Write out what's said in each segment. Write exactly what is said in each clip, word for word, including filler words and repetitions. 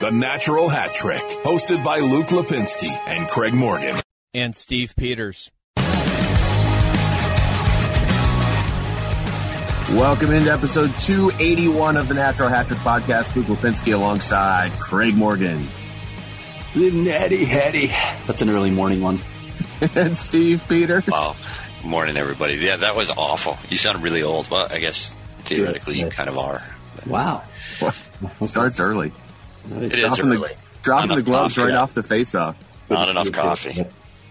The Natural Hat Trick, hosted by Luke Lipinski and Craig Morgan. And Steve Peters. Welcome into episode two eighty-one of the Natural Hat Trick podcast. Luke Lipinski alongside Craig Morgan. Natty Hattie. That's an early morning one. And Steve Peters. Wow. Morning, everybody. Yeah, that was awful. You sound really old. Well, I guess theoretically you kind of are. Wow. Starts early. It is dropping early. The, dropping the gloves coffee, right yeah. off the face-off. Not enough coffee.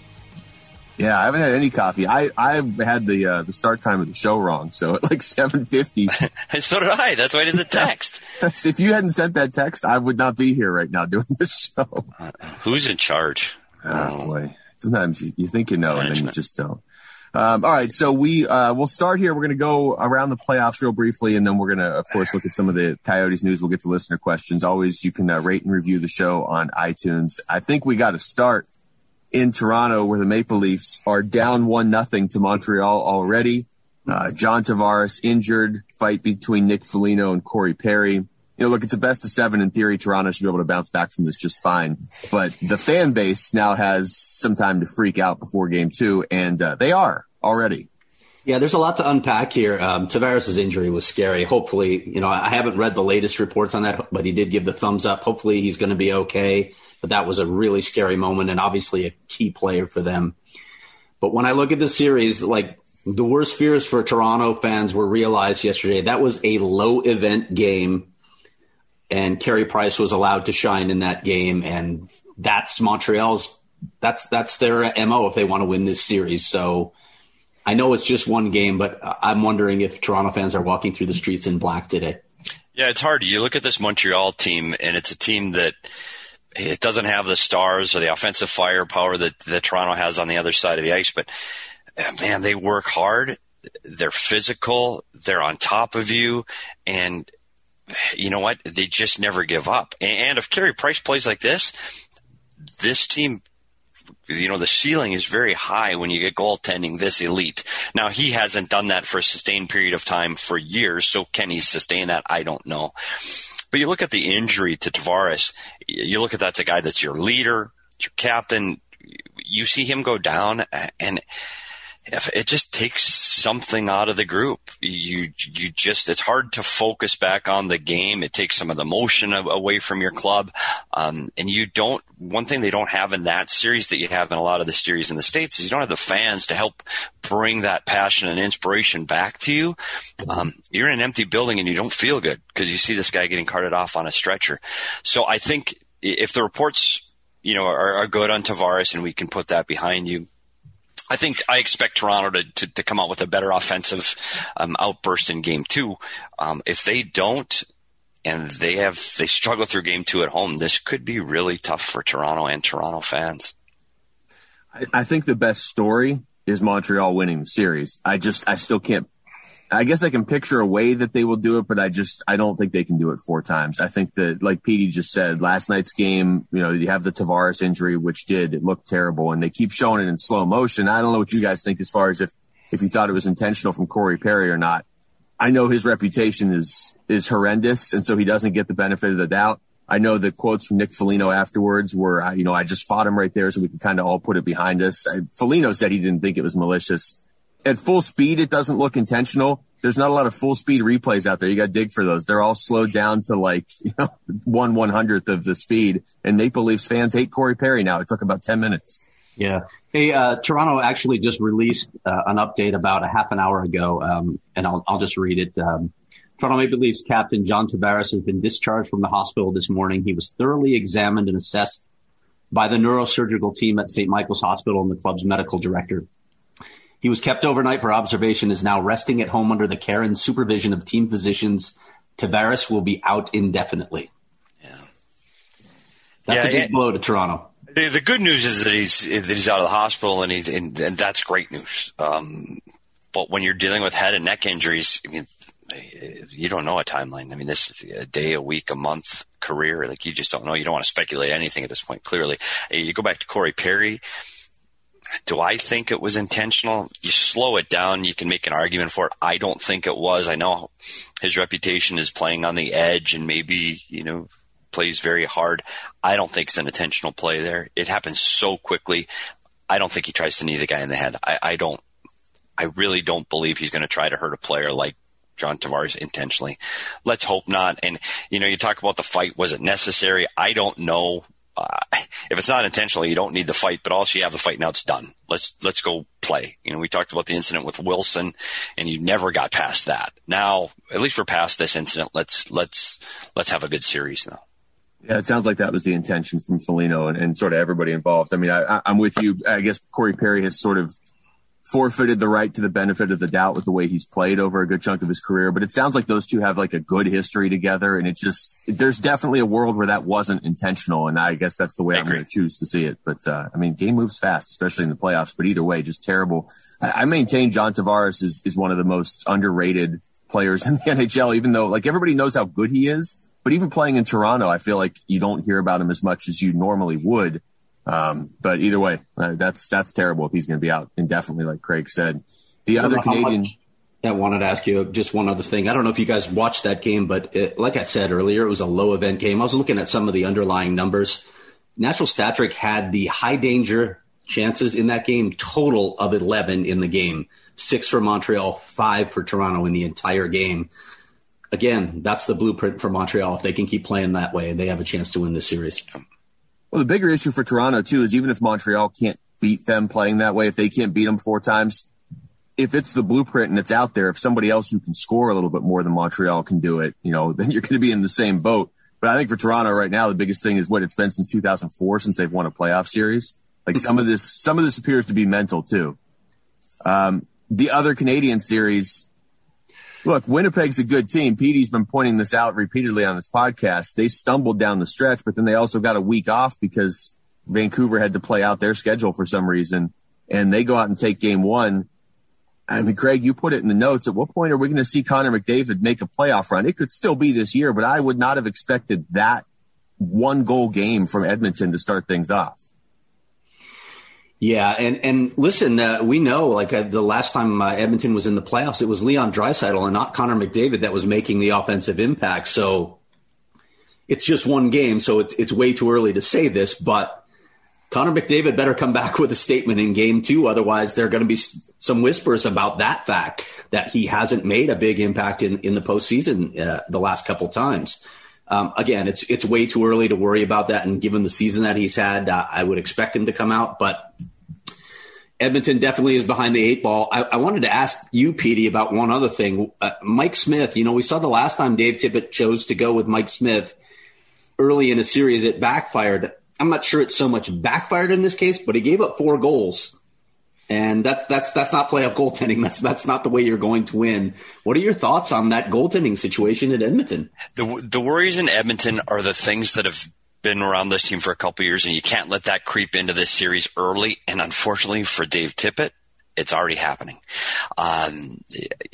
Yeah, I haven't had any coffee. I I had the uh, the start time of the show wrong, so at like seven fifty. So did I. That's why I did the text. If you hadn't sent that text, I would not be here right now doing the show. Uh, who's in charge? Oh, boy. Sometimes you, you think you know, Management. And then you just don't. Um, all right, so we uh, we'll start here. We're going to go around the playoffs real briefly, and then we're going to, of course, look at some of the Coyotes news. We'll get to listener questions. Always, you can uh, rate and review the show on iTunes. I think we got to start in Toronto, where the Maple Leafs are down one nothing to Montreal already. Uh, John Tavares injured. Fight between Nick Foligno and Corey Perry. You know, look, it's a best of seven. In theory, Toronto should be able to bounce back from this just fine. But the fan base now has some time to freak out before game two, and uh, they are already. Yeah, there's a lot to unpack here. Um, Tavares' injury was scary. Hopefully, you know, I haven't read the latest reports on that, but he did give the thumbs up. Hopefully he's going to be okay. But that was a really scary moment and obviously a key player for them. But when I look at the series, like the worst fears for Toronto fans were realized yesterday. That was a low event game, and Carey Price was allowed to shine in that game. And that's Montreal's, that's, that's their M O if they want to win this series. So I know it's just one game, but I'm wondering if Toronto fans are walking through the streets in black today. Yeah, it's hard. You look at this Montreal team, and it's a team that it doesn't have the stars or the offensive firepower that, that Toronto has on the other side of the ice. But, man, they work hard. They're physical. They're on top of you. And you know what? They just never give up. And if Carey Price plays like this, this team – you know, the ceiling is very high when you get goaltending this elite. Now, he hasn't done that for a sustained period of time for years, so can he sustain that? I don't know. But you look at the injury to Tavares, you look at that's a guy that's your leader, your captain. You see him go down, and if it just takes something out of the group. You you just it's hard to focus back on the game. It takes some of the motion away from your club, um, and you don't. One thing they don't have in that series that you have in a lot of the series in the States is you don't have the fans to help bring that passion and inspiration back to you. Um, you're in an empty building and you don't feel good because you see this guy getting carted off on a stretcher. So I think if the reports, you know, are, are good on Tavares and we can put that behind you, I think I expect Toronto to, to, to come out with a better offensive um, outburst in game two. Um, if they don't, and they have they struggle through game two at home, this could be really tough for Toronto and Toronto fans. I, I think the best story is Montreal winning the series. I just I still can't. I guess I can picture a way that they will do it, but I just I don't think they can do it four times. I think that, like Petey just said, last night's game, you know, you have the Tavares injury, which did it looked terrible, and they keep showing it in slow motion. I don't know what you guys think as far as if if you thought it was intentional from Corey Perry or not. I know his reputation is is horrendous, and so he doesn't get the benefit of the doubt. I know the quotes from Nick Foligno afterwards were, you know, I just fought him right there so we could kind of all put it behind us. I, Foligno said he didn't think it was malicious. At full speed, it doesn't look intentional. There's not a lot of full speed replays out there. You got to dig for those. They're all slowed down to like, you know, one one hundredth of the speed. And Maple Leafs fans hate Corey Perry now. It took about ten minutes. Yeah. Hey, uh, Toronto actually just released uh, an update about a half an hour ago, um, and I'll, I'll just read it. Um, Toronto Maple Leafs captain John Tavares has been discharged from the hospital this morning. He was thoroughly examined and assessed by the neurosurgical team at Saint Michael's Hospital and the club's medical director. He was kept overnight for observation, is now resting at home under the care and supervision of team physicians. Tavares will be out indefinitely. Yeah. That's yeah, a big and blow to Toronto. The, the good news is that he's that he's out of the hospital, and he's and, and that's great news. Um, but when you're dealing with head and neck injuries, I mean, you don't know a timeline. I mean, this is a day, a week, a month career. Like, you just don't know. You don't want to speculate anything at this point, clearly. You go back to Corey Perry. Do I think it was intentional? You slow it down, you can make an argument for it. I don't think it was. I know his reputation is playing on the edge, and maybe, you know, plays very hard. I don't think it's an intentional play there. It happens so quickly. I don't think he tries to knee the guy in the head. I, I don't, I really don't believe he's going to try to hurt a player like John Tavares intentionally. Let's hope not. And, you know, you talk about the fight. Was it necessary? I don't know. Uh, if it's not intentional, you don't need the fight, but also you have the fight. Now it's done. Let's, let's go play. You know, we talked about the incident with Wilson and you never got past that. Now, at least we're past this incident. Let's, let's, let's have a good series now. Yeah, it sounds like that was the intention from Foligno and, and sort of everybody involved. I mean, I, I'm with you. I guess Corey Perry has sort of forfeited the right to the benefit of the doubt with the way he's played over a good chunk of his career. But it sounds like those two have like a good history together. And it just, there's definitely a world where that wasn't intentional. And I guess that's the way I I'm going to choose to see it. But, uh, I mean, game moves fast, especially in the playoffs. But either way, just terrible. I, I maintain John Tavares is, is one of the most underrated players in the N H L, even though like everybody knows how good he is. But even playing in Toronto, I feel like you don't hear about him as much as you normally would. Um, but either way, uh, that's, that's terrible if he's going to be out indefinitely, like Craig said. The other Canadian. Much, I wanted to ask you just one other thing. I don't know if you guys watched that game, but it, like I said earlier, it was a low event game. I was looking at some of the underlying numbers. Natural Stat Trick had the high danger chances in that game, total of eleven in the game, six for Montreal, five for Toronto in the entire game. Again, that's the blueprint for Montreal. If they can keep playing that way, they have a chance to win this series. Well, the bigger issue for Toronto, too, is even if Montreal can't beat them playing that way, if they can't beat them four times, if it's the blueprint and it's out there, if somebody else who can score a little bit more than Montreal can do it, you know, then you're going to be in the same boat. But I think for Toronto right now, the biggest thing is what it's been since two thousand four, since they've won a playoff series. Like some of this, some of this appears to be mental, too. Um, the other Canadian series, look, Winnipeg's a good team. Petey's been pointing this out repeatedly on this podcast. They stumbled down the stretch, but then they also got a week off because Vancouver had to play out their schedule for some reason, and they go out and take game one. I mean, Craig, you put it in the notes. At what point are we going to see Connor McDavid make a playoff run? It could still be this year, but I would not have expected that one goal game from Edmonton to start things off. Yeah, and, and listen, uh, we know like uh, the last time uh, Edmonton was in the playoffs, it was Leon Draisaitl and not Connor McDavid that was making the offensive impact. So it's just one game, so it's it's way too early to say this, but Connor McDavid better come back with a statement in game two. Otherwise, there are going to be some whispers about that fact that he hasn't made a big impact in, in the postseason uh, the last couple times. Um, again, it's it's way too early to worry about that. And given the season that he's had, uh, I would expect him to come out. But Edmonton definitely is behind the eight ball. I, I wanted to ask you, Petey, about one other thing. Uh, Mike Smith, you know, we saw the last time Dave Tippett chose to go with Mike Smith early in a series, it backfired. I'm not sure it's so much backfired in this case, but he gave up four goals. And that's that's that's not playoff goaltending. That's that's not the way you're going to win. What are your thoughts on that goaltending situation at Edmonton? The the worries in Edmonton are the things that have been around this team for a couple of years, and you can't let that creep into this series early. And unfortunately for Dave Tippett, it's already happening. Um,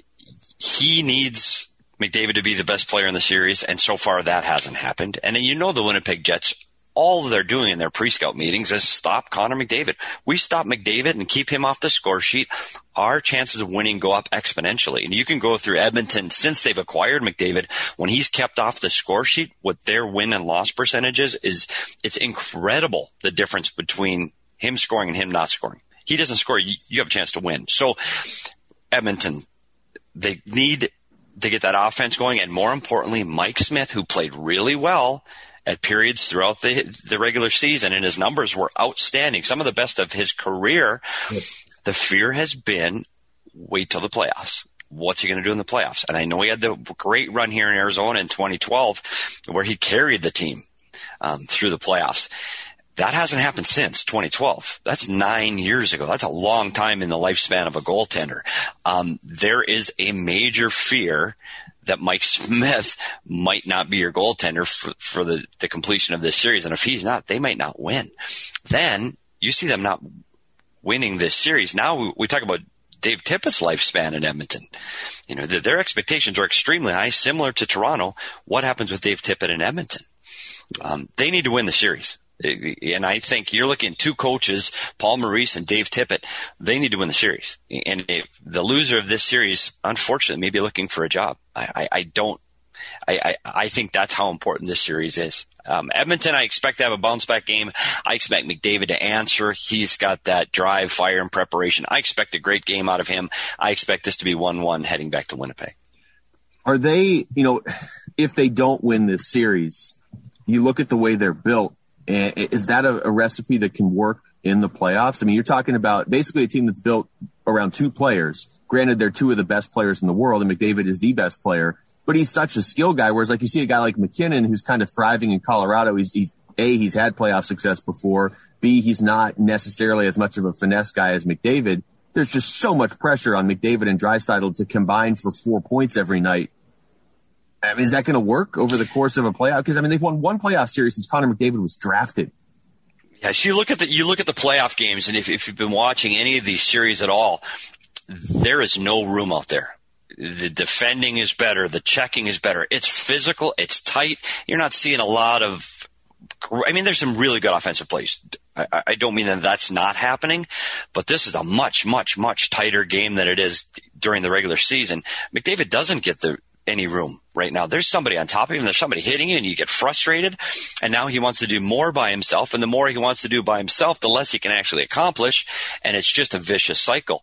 he needs McDavid to be the best player in the series, and so far that hasn't happened. And you know the Winnipeg Jets, all they're doing in their pre-scout meetings is stop Connor McDavid. We stop McDavid and keep him off the score sheet, our chances of winning go up exponentially. And you can go through Edmonton since they've acquired McDavid. When he's kept off the score sheet, what their win and loss percentages is, it's incredible the difference between him scoring and him not scoring. He doesn't score, you, you have a chance to win. So Edmonton, they need to get that offense going. And more importantly, Mike Smith, who played really well at periods throughout the the regular season, and his numbers were outstanding, some of the best of his career. Yep. The fear has been, wait till the playoffs. What's he going to do in the playoffs? And I know he had the great run here in Arizona in twenty twelve where he carried the team um, through the playoffs. That hasn't happened since twenty twelve. That's nine years ago. That's a long time in the lifespan of a goaltender. Um, there is a major fear that Mike Smith might not be your goaltender for, for the, the completion of this series. And if he's not, they might not win. Then you see them not winning this series. Now we, we talk about Dave Tippett's lifespan in Edmonton. You know, the, their expectations are extremely high, similar to Toronto. What happens with Dave Tippett in Edmonton? Um, they need to win the series. And I think you're looking at two coaches, Paul Maurice and Dave Tippett. They need to win the series. And if the loser of this series, unfortunately, may be looking for a job. I, I, I don't, I, I, I think that's how important this series is. Um, Edmonton, I expect to have a bounce-back game. I expect McDavid to answer. He's got that drive, fire, and preparation. I expect a great game out of him. I expect this to be one one heading back to Winnipeg. Are they, you know, if they don't win this series, you look at the way they're built, is that a, a recipe that can work in the playoffs? I mean, you're talking about basically a team that's built around two players. Granted, they're two of the best players in the world, and McDavid is the best player, but he's such a skill guy. Whereas, like, you see a guy like McKinnon who's kind of thriving in Colorado. He's, he's A, he's had playoff success before. B, he's not necessarily as much of a finesse guy as McDavid. There's just so much pressure on McDavid and Draisaitl to combine for four points every night. I mean, is that going to work over the course of a playoff? Because, I mean, they've won one playoff series since Connor McDavid was drafted. Yes, you look at the you look at the playoff games, and if, if you've been watching any of these series at all, there is no room out there. The defending is better. The checking is better. It's physical. It's tight. You're not seeing a lot of – I mean, there's some really good offensive plays. I, I don't mean that that's not happening, but this is a much, much, much tighter game than it is during the regular season. McDavid doesn't get the any room right now. There's somebody on top of him. There's somebody hitting you, and you get frustrated. And now he wants to do more by himself. And the more he wants to do by himself, the less he can actually accomplish. And it's just a vicious cycle.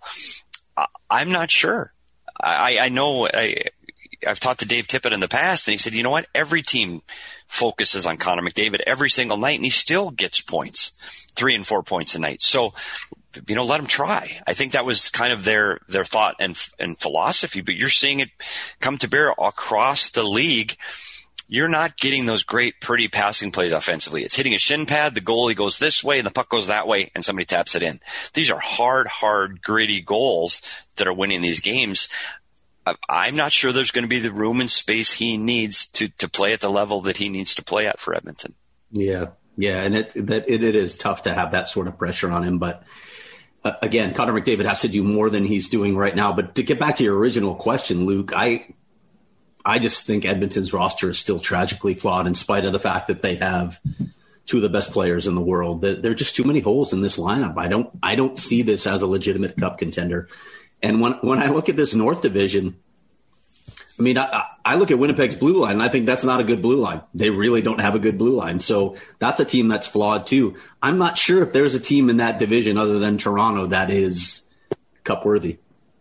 I'm not sure. I, I know I, I've talked to Dave Tippett in the past, and he said, you know what? Every team focuses on Connor McDavid every single night, and he still gets points, three and four points a night. So, you know, let him try. I think that was kind of their, their thought and, and philosophy, but you're seeing it come to bear across the league. You're not getting those great, pretty passing plays offensively. It's hitting a shin pad. The goalie goes this way and the puck goes that way, and somebody taps it in. These are hard, hard, gritty goals that are winning these games. I'm not sure there's going to be the room and space he needs to, to play at the level that he needs to play at for Edmonton. Yeah. Yeah. And it, that it, it is tough to have that sort of pressure on him, but Uh, again, Connor McDavid has to do more than he's doing right now. But to get back to your original question, Luke, I I just think Edmonton's roster is still tragically flawed in spite of the fact that they have two of the best players in the world. There are just too many holes in this lineup. I don't I don't see this as a legitimate cup contender. And when when I look at this North Division, I mean, I, I look at Winnipeg's blue line, and I think that's not a good blue line. They really don't have a good blue line. So that's a team that's flawed too. I'm not sure if there's a team in that division other than Toronto that is cup worthy.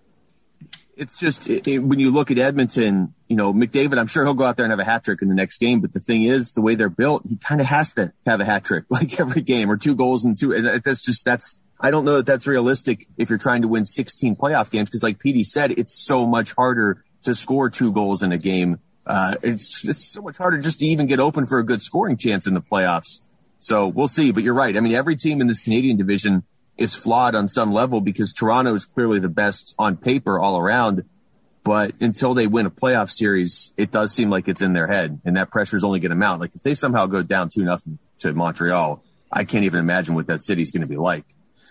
It's just it, it, when you look at Edmonton, you know, McDavid, I'm sure he'll go out there and have a hat trick in the next game. But the thing is, the way they're built, he kind of has to have a hat trick like every game, or two goals and two. And that's just that's I don't know that that's realistic if you're trying to win sixteen playoff games, because like Petey said, it's so much harder to score two goals in a game. Uh, it's, it's so much harder just to even get open for a good scoring chance in the playoffs. So we'll see, but you're right. I mean, every team in this Canadian division is flawed on some level, because Toronto is clearly the best on paper all around. But until they win a playoff series, it does seem like it's in their head, and that pressure is only going to mount. Like if they somehow go down two nothing to Montreal, I can't even imagine what that city's going to be like.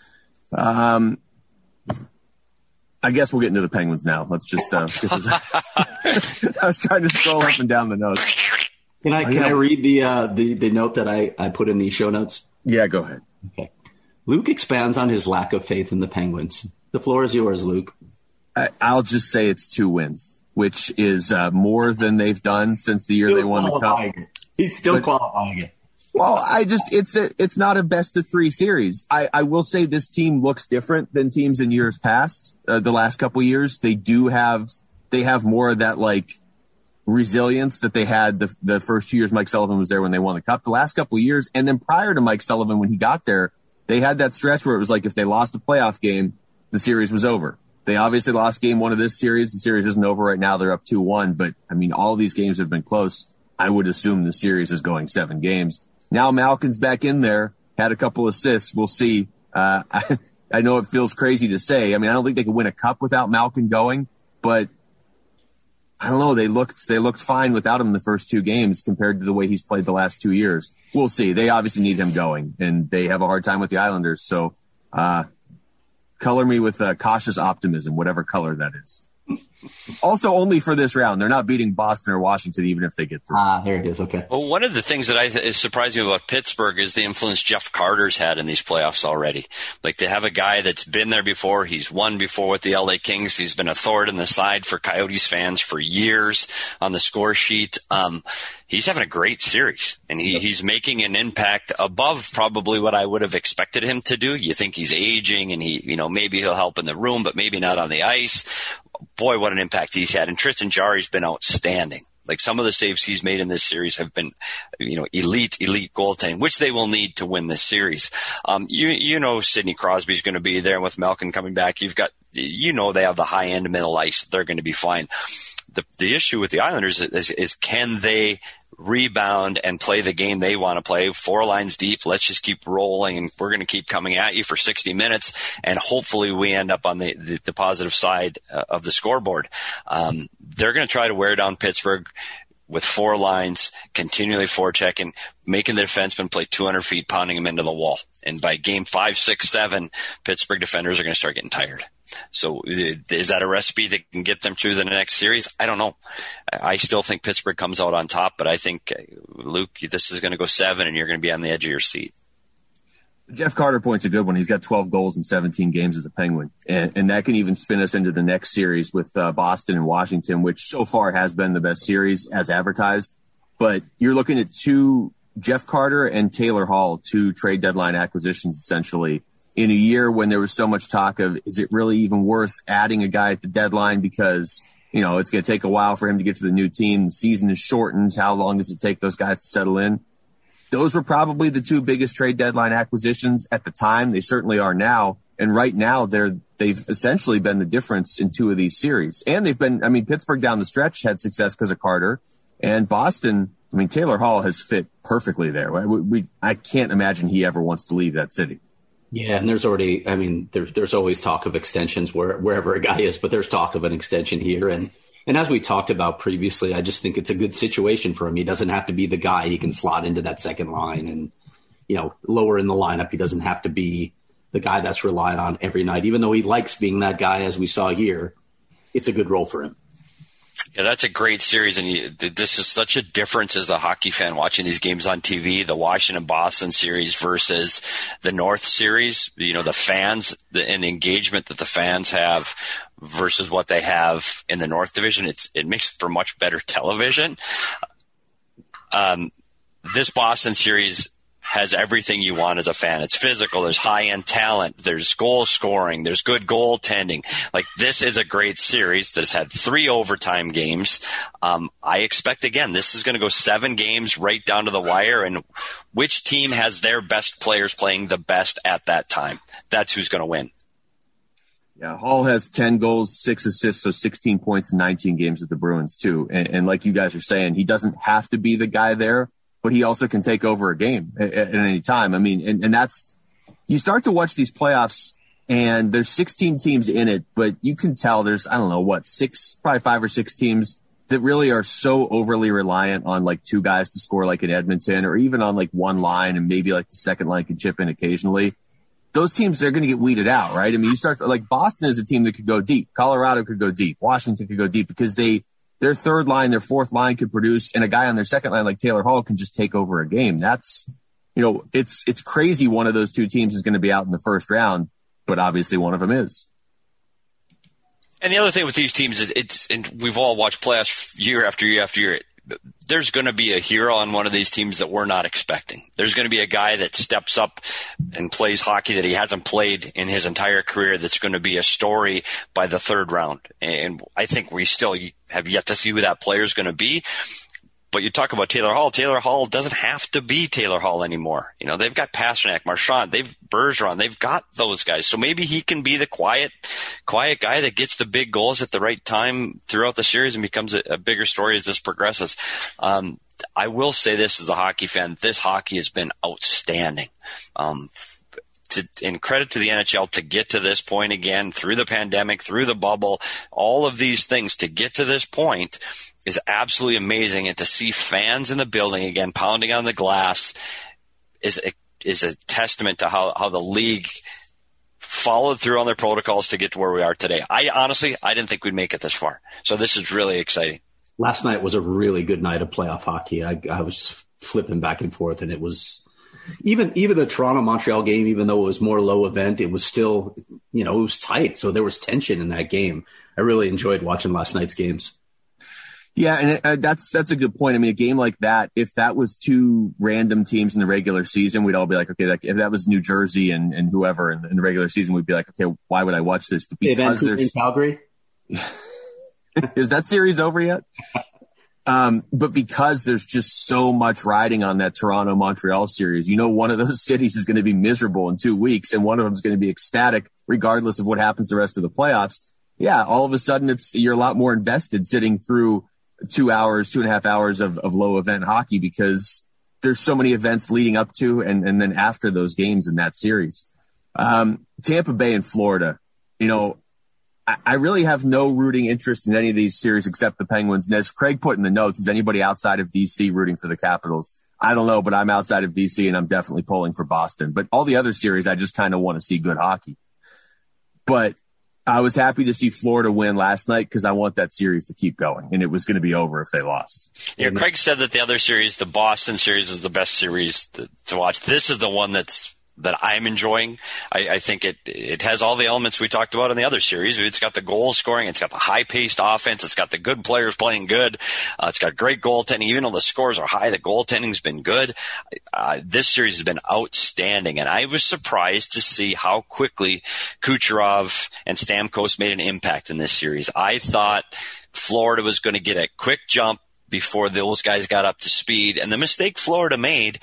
Um, I guess we'll get into the Penguins now. Let's just, uh, I was trying to scroll up and down the notes. Can I, can I read the, uh, the, the note that I, I put in the show notes? Yeah, go ahead. Okay. Luke expands on his lack of faith in the Penguins. The floor is yours, Luke. I, I'll just say it's two wins, which is, uh, more than they've done since the year still they won the cup. It. He's still but, qualifying it. Well, I just, it's a, it's not a best of three series. I, I will say this team looks different than teams in years past, uh, the last couple of years. They do have, they have more of that like resilience that they had the, the first two years Mike Sullivan was there when they won the cup, the last couple of years. And then prior to Mike Sullivan, when he got there, they had that stretch where it was like, if they lost a playoff game, the series was over. They obviously lost game one of this series. The series isn't over right now. They're up two one, but I mean, all of these games have been close. I would assume the series is going seven games. Now Malkin's back in there, had a couple assists. We'll see. Uh, I, I know it feels crazy to say. I mean, I don't think they could win a cup without Malkin going, but I don't know. They looked, they looked fine without him in the first two games compared to the way he's played the last two years. We'll see. They obviously need him going, and they have a hard time with the Islanders. So, uh, color me with uh, cautious optimism, whatever color that is. Also, only for this round. They're not beating Boston or Washington, even if they get through. Ah, there it is. Okay. Well, one of the things that I th- is surprising me about Pittsburgh is the influence Jeff Carter's had in these playoffs already. Like, they have a guy that's been there before. He's won before with the L A Kings. He's been a thorn in the side for Coyotes fans for years on the score sheet. Um, he's having a great series, and he, he's making an impact above probably what I would have expected him to do. You think he's aging, and he, you know, maybe he'll help in the room, but maybe not on the ice. Boy, what an impact he's had. And Tristan Jarry's been outstanding. Like, some of the saves he's made in this series have been, you know, elite, elite goaltending, which they will need to win this series. Um, you, you know, Sidney Crosby's going to be there, and with Malkin coming back, you've got, you know, they have the high end middle ice. They're going to be fine. The, the issue with the Islanders is, is can they rebound and play the game they want to play? Four lines deep. Let's just keep rolling, and we're going to keep coming at you for sixty minutes, and hopefully we end up on the, the, the positive side uh, of the scoreboard. Um, they're going to try to wear down Pittsburgh with four lines, continually forechecking, making the defensemen play two hundred feet, pounding them into the wall. And by game five, six, seven, Pittsburgh defenders are going to start getting tired. So is that a recipe that can get them through the next series? I don't know. I still think Pittsburgh comes out on top, but I think, Luke, this is going to go seven, and you're going to be on the edge of your seat. Jeff Carter point's a good one. He's got twelve goals in seventeen games as a Penguin, and, and that can even spin us into the next series with uh, Boston and Washington, which so far has been the best series as advertised. But you're looking at two, Jeff Carter and Taylor Hall, two trade deadline acquisitions essentially, in a year when there was so much talk of, is it really even worth adding a guy at the deadline because, you know, it's going to take a while for him to get to the new team. The season is shortened. How long does it take those guys to settle in? Those were probably the two biggest trade deadline acquisitions at the time. They certainly are now. And right now they're, they've essentially been the difference in two of these series. And they've been, I mean, Pittsburgh down the stretch had success because of Carter, and Boston, I mean, Taylor Hall has fit perfectly there. We, we, I can't imagine he ever wants to leave that city. Yeah, and there's already, I mean, there's there's always talk of extensions where, wherever a guy is, but there's talk of an extension here. And, and as we talked about previously, I just think it's a good situation for him. He doesn't have to be the guy. He can slot into that second line and, you know, lower in the lineup. He doesn't have to be the guy that's relied on every night. Even though he likes being that guy, as we saw here, it's a good role for him. Yeah, that's a great series, and you, this is such a difference as a hockey fan watching these games on T V, the Washington-Boston series versus the North series. You know, the fans the, and the engagement that the fans have versus what they have in the North Division, it's it makes for much better television. Um, this Boston series has everything you want as a fan. It's physical. There's high-end talent. There's goal scoring. There's good goaltending. Like, this is a great series that's had three overtime games. Um, I expect, again, this is going to go seven games right down to the wire, and which team has their best players playing the best at that time? That's who's going to win. Yeah, Hall has ten goals, six assists, so sixteen points in nineteen games with the Bruins, too. And, and like you guys are saying, he doesn't have to be the guy there, but he also can take over a game at, at any time. I mean, and, and that's, you start to watch these playoffs and there's sixteen teams in it, but you can tell there's, I don't know what, six, probably five or six teams that really are so overly reliant on like two guys to score, like in Edmonton, or even on like one line, and maybe like the second line can chip in occasionally. Those teams, they're going to get weeded out, right? I mean, you start, like Boston is a team that could go deep. Colorado could go deep. Washington could go deep because they, their third line, their fourth line could produce, and a guy on their second line like Taylor Hall can just take over a game. That's, you know, it's it's crazy one of those two teams is going to be out in the first round, but obviously one of them is. And the other thing with these teams is it's, and we've all watched playoffs year after year after year. There's going to be a hero on one of these teams that we're not expecting. There's going to be a guy that steps up and plays hockey that he hasn't played in his entire career that's going to be a story by the third round. And I think we still have yet to see who that player is going to be. But you talk about Taylor Hall. Taylor Hall doesn't have to be Taylor Hall anymore. You know, they've got Pastrnak, Marchand, they've Bergeron, they've got those guys. So maybe he can be the quiet, quiet guy that gets the big goals at the right time throughout the series and becomes a, a bigger story as this progresses. Um, I will say this as a hockey fan, this hockey has been outstanding. Um, To, and credit to the N H L to get to this point again through the pandemic, through the bubble, all of these things to get to this point is absolutely amazing. And to see fans in the building again, pounding on the glass is a, is a testament to how, how the league followed through on their protocols to get to where we are today. I honestly, I didn't think we'd make it this far. So this is really exciting. Last night was a really good night of playoff hockey. I, I was just flipping back and forth, and it was even even the Toronto-Montreal game, even though it was more low event, it was still, you know, it was tight. So there was tension in that game. I really enjoyed watching last night's games. Yeah, and it, uh, that's that's a good point. I mean, a game like that, if that was two random teams in the regular season, we'd all be like, okay, like, if that was New Jersey and, and whoever in, in the regular season, we'd be like, okay, why would I watch this? But because hey, there's in Calgary. Is that series over yet? Um, but because there's just so much riding on that Toronto-Montreal series, you know, one of those cities is going to be miserable in two weeks, and one of them is going to be ecstatic, regardless of what happens the rest of the playoffs. Yeah, all of a sudden, it's you're a lot more invested sitting through two hours, two and a half hours of, of low event hockey, because there's so many events leading up to and, and then after those games in that series. Um, Tampa Bay and Florida, you know, I, I really have no rooting interest in any of these series except the Penguins. And as Craig put in the notes, is anybody outside of D C rooting for the Capitals? I don't know, but I'm outside of D C and I'm definitely pulling for Boston. But all the other series, I just kind of want to see good hockey. But I was happy to see Florida win last night because I want that series to keep going, and it was going to be over if they lost. Yeah, Craig said that the other series, the Boston series, is the best series to, to watch. This is the one that's that I'm enjoying. I, I think it it has all the elements we talked about in the other series. It's got the goal scoring, it's got the high-paced offense, it's got the good players playing good, uh, it's got great goaltending. Even though the scores are high, the goaltending's been good. Uh, this series has been outstanding, and I was surprised to see how quickly Kucherov and Stamkos made an impact in this series. I thought Florida was going to get a quick jump before those guys got up to speed, and the mistake Florida made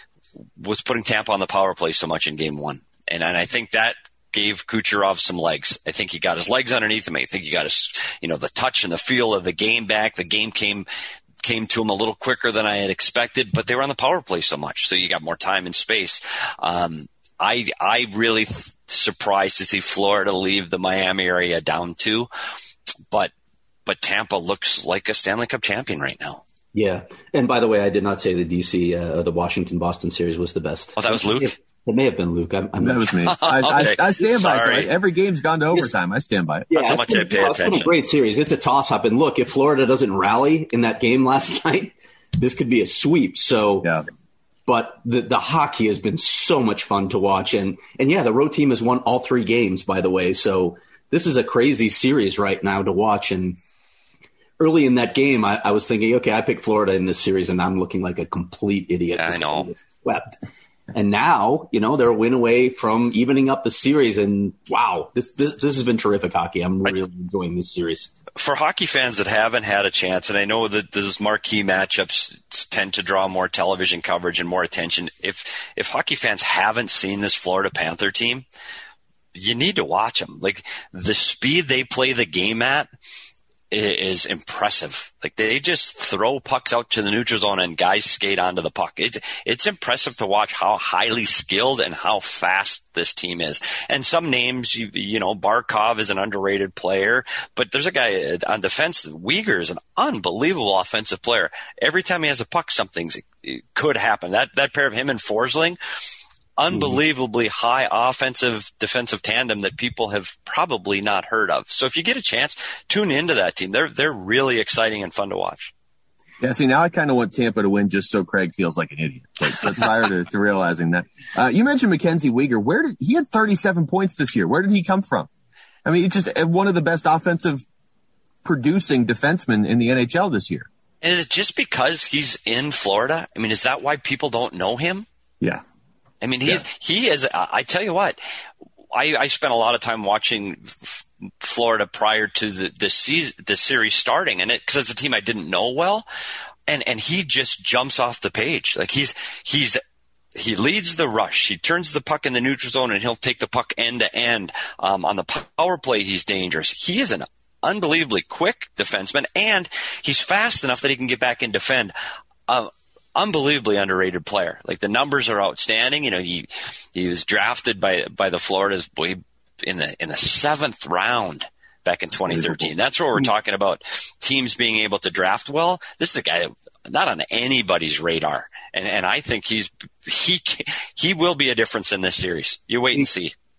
was putting Tampa on the power play so much in game one. And, and I think that gave Kucherov some legs. I think he got his legs underneath him. I think he got his, you know, the touch and the feel of the game back. The game came, came to him a little quicker than I had expected, but they were on the power play so much. So you got more time and space. Um, I, I really th- surprised to see Florida leave the Miami area down two, but, but Tampa looks like a Stanley Cup champion right now. Yeah. And by the way, I did not say the D C, uh, the Washington-Boston series was the best. Oh, that was Luke? It, it may have been Luke. I'm, I'm that was me. I, okay. I, I stand by Sorry. it. Every game's gone to overtime. I stand by it. Yeah, That's how much I pay been, attention. It's been a great series. It's a toss-up. And look, if Florida doesn't rally in that game last night, this could be a sweep. So, yeah. But the, the hockey has been so much fun to watch. And, and yeah, the road team has won all three games, by the way. So this is a crazy series right now to watch. And early in that game, I, I was thinking, okay, I picked Florida in this series, and I'm looking like a complete idiot. I know. Swept. And now, you know, they're a win away from evening up the series. And wow, this this, this has been terrific hockey. I'm really enjoying this series. For hockey fans that haven't had a chance, and I know that those marquee matchups tend to draw more television coverage and more attention. If if hockey fans haven't seen this Florida Panther team, you need to watch them. Like, the speed they play the game at is impressive. Like, they just throw pucks out to the neutral zone and guys skate onto the puck. It, it's impressive to watch how highly skilled and how fast this team is. And some names, you, you know, Barkov is an underrated player, but there's a guy on defense, Uyghur is an unbelievable offensive player. Every time he has a puck, something could happen. That, that pair of him and Forsling, unbelievably high offensive defensive tandem that people have probably not heard of. So if you get a chance, tune into that team. They're they're really exciting and fun to watch. Yeah, see, now I kind of want Tampa to win just so Craig feels like an idiot. But, but prior to, to realizing that, uh, you mentioned Mackenzie Weegar. Where did he had thirty-seven points this year? Where did he come from? I mean, it's just one of the best offensive producing defensemen in the N H L this year. Is it just because he's in Florida? I mean, is that why people don't know him? Yeah. I mean, he's, yeah. he is, I tell you what, I, I spent a lot of time watching F- Florida prior to the, the season, the series starting, and it, cause it's a team I didn't know well. And, and he just jumps off the page. Like, he's, he's, he leads the rush. He turns the puck in the neutral zone and he'll take the puck end to end. Um, on the power play, he's dangerous. He is an unbelievably quick defenseman, and he's fast enough that he can get back and defend. Um, Unbelievably underrated player. Like, the numbers are outstanding. You know, he he was drafted by by the Florida's boy in the in the seventh round back in twenty thirteen. That's what we're talking about. Teams being able to draft well. This is a guy not on anybody's radar, and and I think he's he he will be a difference in this series. You wait and see.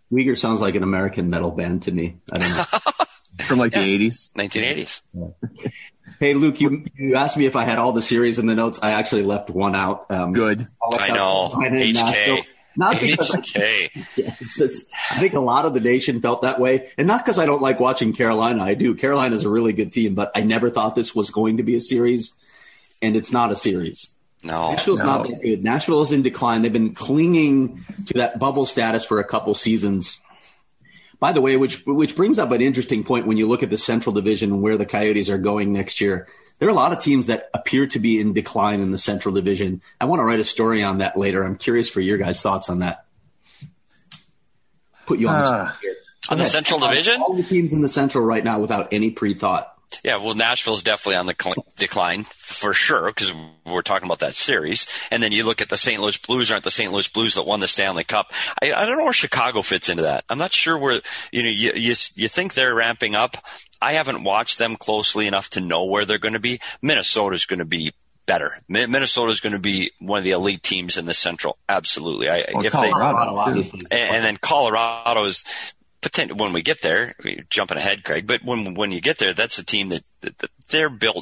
Uyghur sounds like an American metal band to me. I don't know. From like Yeah. the eighties. nineteen eighties. Hey, Luke, you, you asked me if I had all the series in the notes. I actually left one out. Um, Good. I know. H K. Not because H K. yes, it's, I think a lot of the nation felt that way. And not because I don't like watching Carolina. I do. Carolina's a really good team, but I never thought this was going to be a series. And it's not a series. No. Nashville's no. not that good. Nashville is in decline. They've been clinging to that bubble status for a couple seasons. By the way, which which brings up an interesting point when you look at the Central Division and where the Coyotes are going next year. There are a lot of teams that appear to be in decline in the Central Division. I want to write a story on that later. I'm curious for your guys' thoughts on that. Put you on the Uh, spot here. On the Go ahead. Central All- Division? All the teams in the Central right now without any pre-thought. Yeah, well, Nashville's definitely on the cl- decline for sure because we're talking about that series. And then you look at the Saint Louis Blues, aren't the Saint Louis Blues that won the Stanley Cup? I, I don't know where Chicago fits into that. I'm not sure where, you know, you, you, you think they're ramping up. I haven't watched them closely enough to know where they're going to be. Minnesota's going to be better. Mi- Minnesota's going to be one of the elite teams in the Central. Absolutely. I, Well, if Colorado, they, obviously. and, and then Colorado's, Potent- when we get there, we're jumping ahead, Craig, but when when you get there, that's a team that, that, that they're built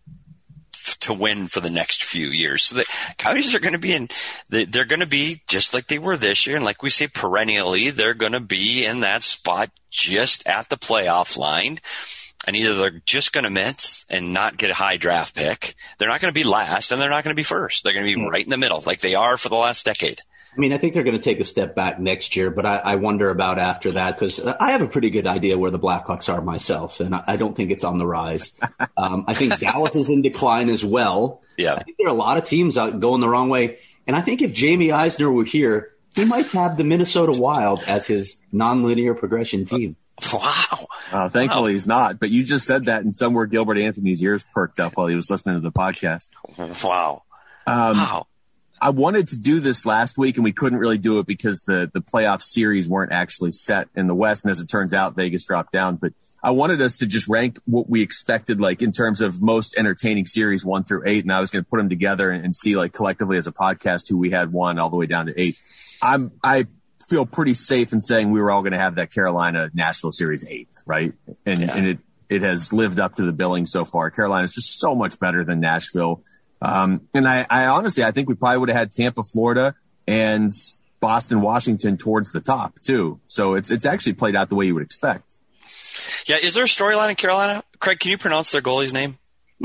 f- to win for the next few years. So the Coyotes are going to be in, they, they're going to be just like they were this year. And like we say perennially, they're going to be in that spot just at the playoff line. And either they're just going to miss and not get a high draft pick. They're not going to be last and they're not going to be first. They're going to be right in the middle like they are for the last decade. I mean, I think they're going to take a step back next year, but I, I wonder about after that because I have a pretty good idea where the Blackhawks are myself, and I, I don't think it's on the rise. Um, I think Dallas is in decline as well. Yeah. I think there are a lot of teams out going the wrong way, and I think if Jamie Eisner were here, he might have the Minnesota Wild as his nonlinear progression team. Wow. Uh, thankfully, Wow. he's not. But you just said that, and somewhere Gilbert Anthony's ears perked up while he was listening to the podcast. Wow. Um, Wow. I wanted to do this last week, and we couldn't really do it because the, the playoff series weren't actually set in the West. And as it turns out, Vegas dropped down. But I wanted us to just rank what we expected, like in terms of most entertaining series one through eight. And I was going to put them together and, and see, like, collectively as a podcast who we had one all the way down to eight. I'm, I feel pretty safe in saying we were all going to have that Carolina Nashville series eight, right? And, Yeah. and it, it has lived up to the billing so far. Carolina is just so much better than Nashville. Um, and I, I honestly, I think we probably would have had Tampa, Florida, and Boston, Washington towards the top too. So it's it's actually played out the way you would expect. Yeah, is there a storyline in Carolina? Craig, can you pronounce their goalie's name?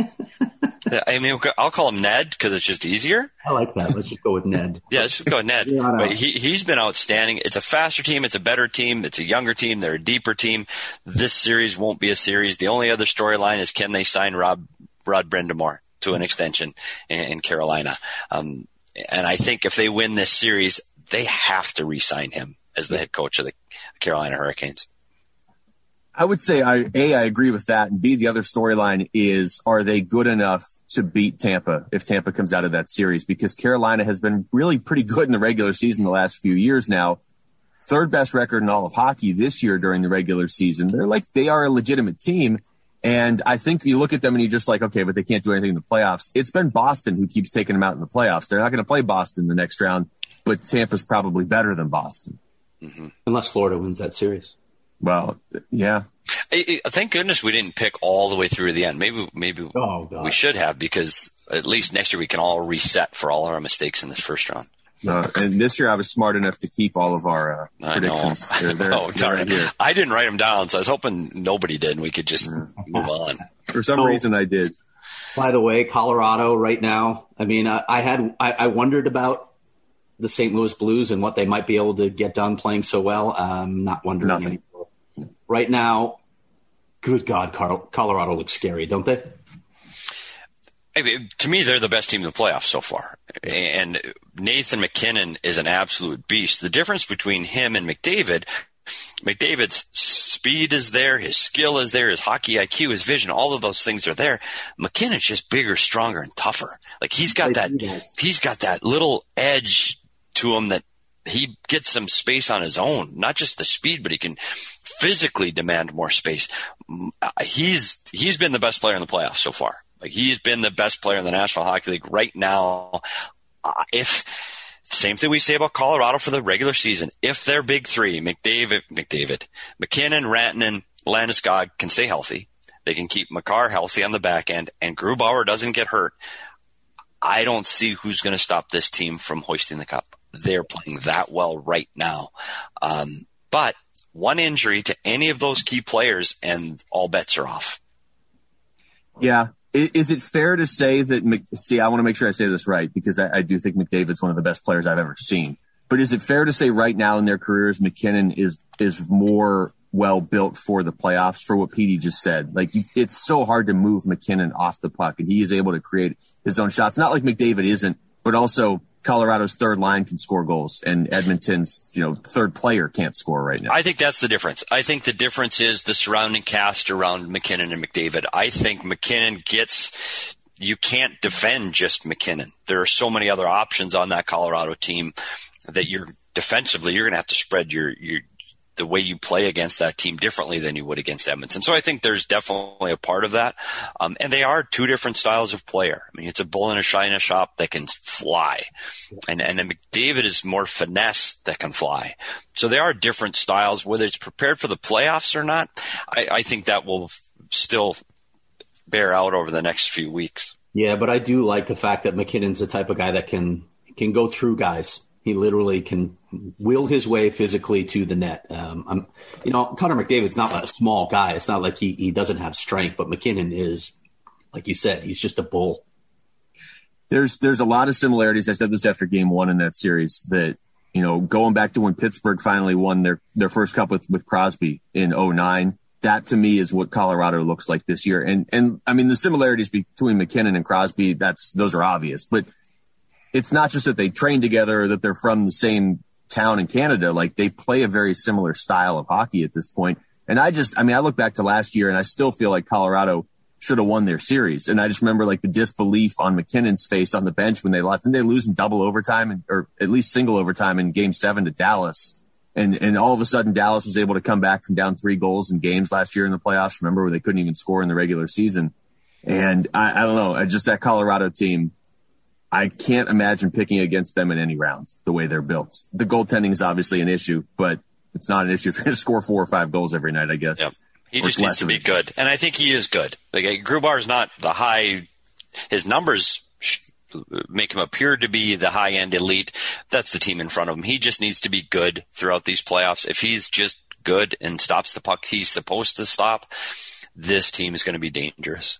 I mean, I'll call him Ned because it's just easier. I like that. Let's just go with Ned. Yeah, let's just go with Ned. Yeah, I know. But he, he's been outstanding. It's a faster team. It's a better team. It's a younger team. They're a deeper team. This series won't be a series. The only other storyline is can they sign Rob Rod Brind'Amour to an extension in, in Carolina? Um, and I think if they win this series, they have to re-sign him as the head coach of the Carolina Hurricanes. I would say, I, A, I agree with that. And B, the other storyline is, are they good enough to beat Tampa if Tampa comes out of that series? Because Carolina has been really pretty good in the regular season the last few years now. Third best record in all of hockey this year during the regular season. They're like, they are a legitimate team. And I think you look at them and you're just like, okay, but they can't do anything in the playoffs. It's been Boston who keeps taking them out in the playoffs. They're not going to play Boston the next round, but Tampa's probably better than Boston. Mm-hmm. Unless Florida wins that series. Well, yeah. I, I, thank goodness we didn't pick all the way through to the end. Maybe, maybe Oh, God. we should have, because at least next year we can all reset for all our mistakes in this first round. Uh, and this year I was smart enough to keep all of our uh, I predictions. know. They're, they're, oh, they're darn right it. here. I didn't write them down, so I was hoping nobody did, and we could just move on. For some So- reason I did. By the way, Colorado right now, I mean, I, I had I, I wondered about the Saint Louis Blues and what they might be able to get done playing so well. I'm not wondering Nothing. anymore. Right now, good God, Car- Colorado looks scary, don't they? I mean, to me, they're the best team in the playoffs so far. And Nathan McKinnon is an absolute beast. The difference between him and McDavid, McDavid's speed is there, his skill is there, his hockey I Q, his vision, all of those things are there. McKinnon's just bigger, stronger, and tougher. Like he's got that, he's got that little edge to him that he gets some space on his own, not just the speed, but he can physically demand more space. He's, he's been the best player in the playoffs so far. Like he's been the best player in the National Hockey League right now. Uh, if Same thing we say about Colorado for the regular season. If their big three, McDavid, McDavid, McKinnon, Rantanen, Landeskog can stay healthy, they can keep Makar healthy on the back end, and Grubauer doesn't get hurt, I don't see who's going to stop this team from hoisting the cup. They're playing that well right now. Um, but one injury to any of those key players and all bets are off. Yeah. Is it fair to say that, see, I want to make sure I say this right, because I, I do think McDavid's one of the best players I've ever seen. But is it fair to say right now in their careers, McKinnon is, is more well built for the playoffs, for what Petey just said? Like, it's so hard to move McKinnon off the puck, and he is able to create his own shots. Not like McDavid isn't, but also Colorado's third line can score goals, and Edmonton's, you know, third player can't score right now. I think that's the difference. I think the difference is the surrounding cast around McKinnon and McDavid. I think McKinnon gets, you can't defend just McKinnon. There are so many other options on that Colorado team that you're defensively, you're going to have to spread your, your, the way you play against that team differently than you would against Edmonton. So I think there's definitely a part of that. Um, and they are two different styles of player. I mean, it's a bull in a china shop that can fly. And, and then McDavid is more finesse that can fly. So they are different styles. Whether it's prepared for the playoffs or not, I, I think that will still bear out over the next few weeks. Yeah, but I do like the fact that McKinnon's the type of guy that can can go through guys. He literally can will his way physically to the net. Um, I'm, you know, Connor McDavid's not a small guy. It's not like he, he doesn't have strength, but McKinnon is, like you said, he's just a bull. There's there's a lot of similarities. I said this after game one in that series, that, you know, going back to when Pittsburgh finally won their, their first cup with, with Crosby in oh nine, that to me is what Colorado looks like this year. And, and I mean, the similarities between McKinnon and Crosby, that's, those are obvious, but it's not just that they train together or that they're from the same town in Canada. Like, they play a very similar style of hockey at this point. And I just, I mean, I look back to last year and I still feel like Colorado should have won their series. And I just remember like the disbelief on McKinnon's face on the bench when they lost. Didn't they lose in double overtime and, or at least single overtime in game seven to Dallas? And, and all of a sudden Dallas was able to come back from down three goals in games last year in the playoffs. Remember, where they couldn't even score in the regular season. And I, I don't know, I just, that Colorado team, I can't imagine picking against them in any round the way they're built. The goaltending is obviously an issue, but it's not an issue if you're going to score four or five goals every night, I guess. Yep. He just needs to be good. And I think he is good. Like, Grubauer is not the high, his numbers make him appear to be the high end elite. That's the team in front of him. He just needs to be good throughout these playoffs. If he's just good and stops the puck he's supposed to stop, this team is going to be dangerous.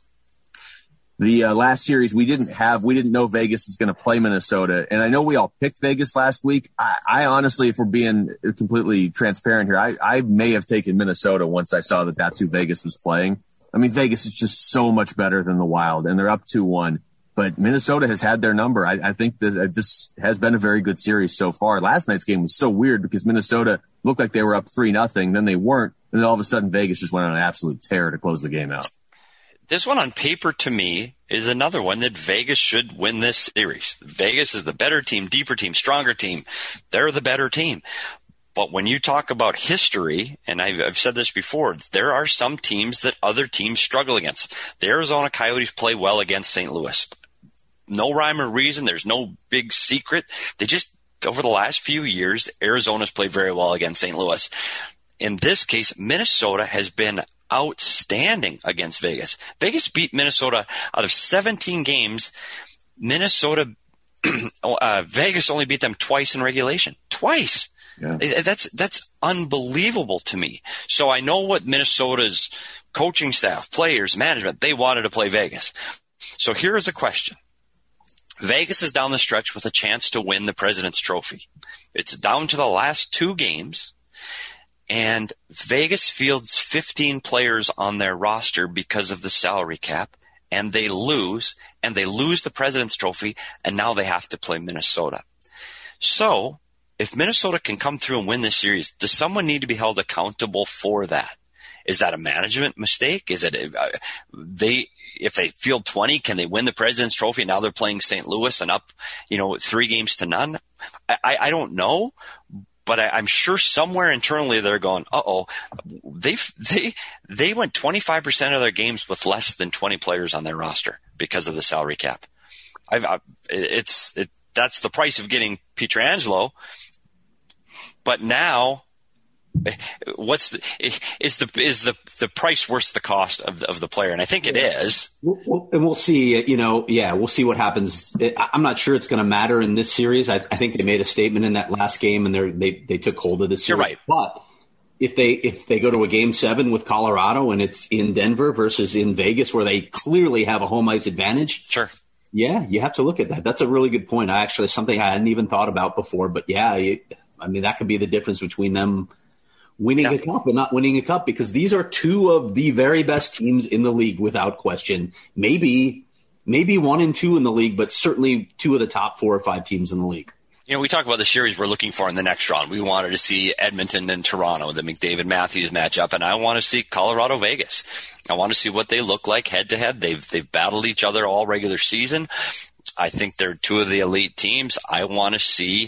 The uh, last series, we didn't have, we didn't know Vegas was going to play Minnesota. And I know we all picked Vegas last week. I, I honestly, if we're being completely transparent here, I, I may have taken Minnesota once I saw that that's who Vegas was playing. I mean, Vegas is just so much better than the Wild, and they're up two one. But Minnesota has had their number. I, I think that this has been a very good series so far. Last night's game was so weird because Minnesota looked like they were up three nothing, then they weren't. And then all of a sudden Vegas just went on an absolute tear to close the game out. This one on paper, to me, is another one that Vegas should win this series. Vegas is the better team, deeper team, stronger team. They're the better team. But when you talk about history, and I've, I've said this before, there are some teams that other teams struggle against. The Arizona Coyotes play well against Saint Louis. No rhyme or reason. There's no big secret. They just, over the last few years, Arizona's played very well against Saint Louis. In this case, Minnesota has been outstanding against Vegas. Vegas beat Minnesota out of seventeen games. Minnesota, uh, Vegas only beat them twice in regulation. Twice. Yeah. That's, that's unbelievable to me. So I know what Minnesota's coaching staff, players, management, they wanted to play Vegas. So here is a question. Vegas is down the stretch with a chance to win the President's Trophy. It's down to the last two games. And Vegas fields fifteen players on their roster because of the salary cap, and they lose, and they lose the President's Trophy, and now they have to play Minnesota. So if Minnesota can come through and win this series, does someone need to be held accountable for that? Is that a management mistake? Is it a, uh, they, if they field twenty, can they win the President's Trophy? Now they're playing Saint Louis and up, you know, three games to none. I, I, I don't know. But I, I'm sure somewhere internally they're going, uh-oh, they they they went twenty-five percent of their games with less than twenty players on their roster because of the salary cap. I've, I, it's it that's the price of getting Pietrangelo. But now, what's the, is the is the the price worth the cost of the, of the player? And I think it is. We'll, and we'll see. You know, yeah, we'll see what happens. I'm not sure it's going to matter in this series. I, I think they made a statement in that last game, and they they took hold of this series. You're right. But if they if they go to a game seven with Colorado and it's in Denver versus in Vegas, where they clearly have a home ice advantage, sure. Yeah, you have to look at that. That's a really good point. I actually something I hadn't even thought about before. But yeah, you, I mean that could be the difference between them winning yeah. a cup and not winning a cup, because these are two of the very best teams in the league without question. Maybe, maybe one and two in the league, but certainly two of the top four or five teams in the league. You know, we talk about the series we're looking for in the next round. We wanted to see Edmonton and Toronto, the McDavid-Matthews matchup, and I want to see Colorado-Vegas. I want to see what they look like head-to-head. They've they've battled each other all regular season. I think they're two of the elite teams. I want to see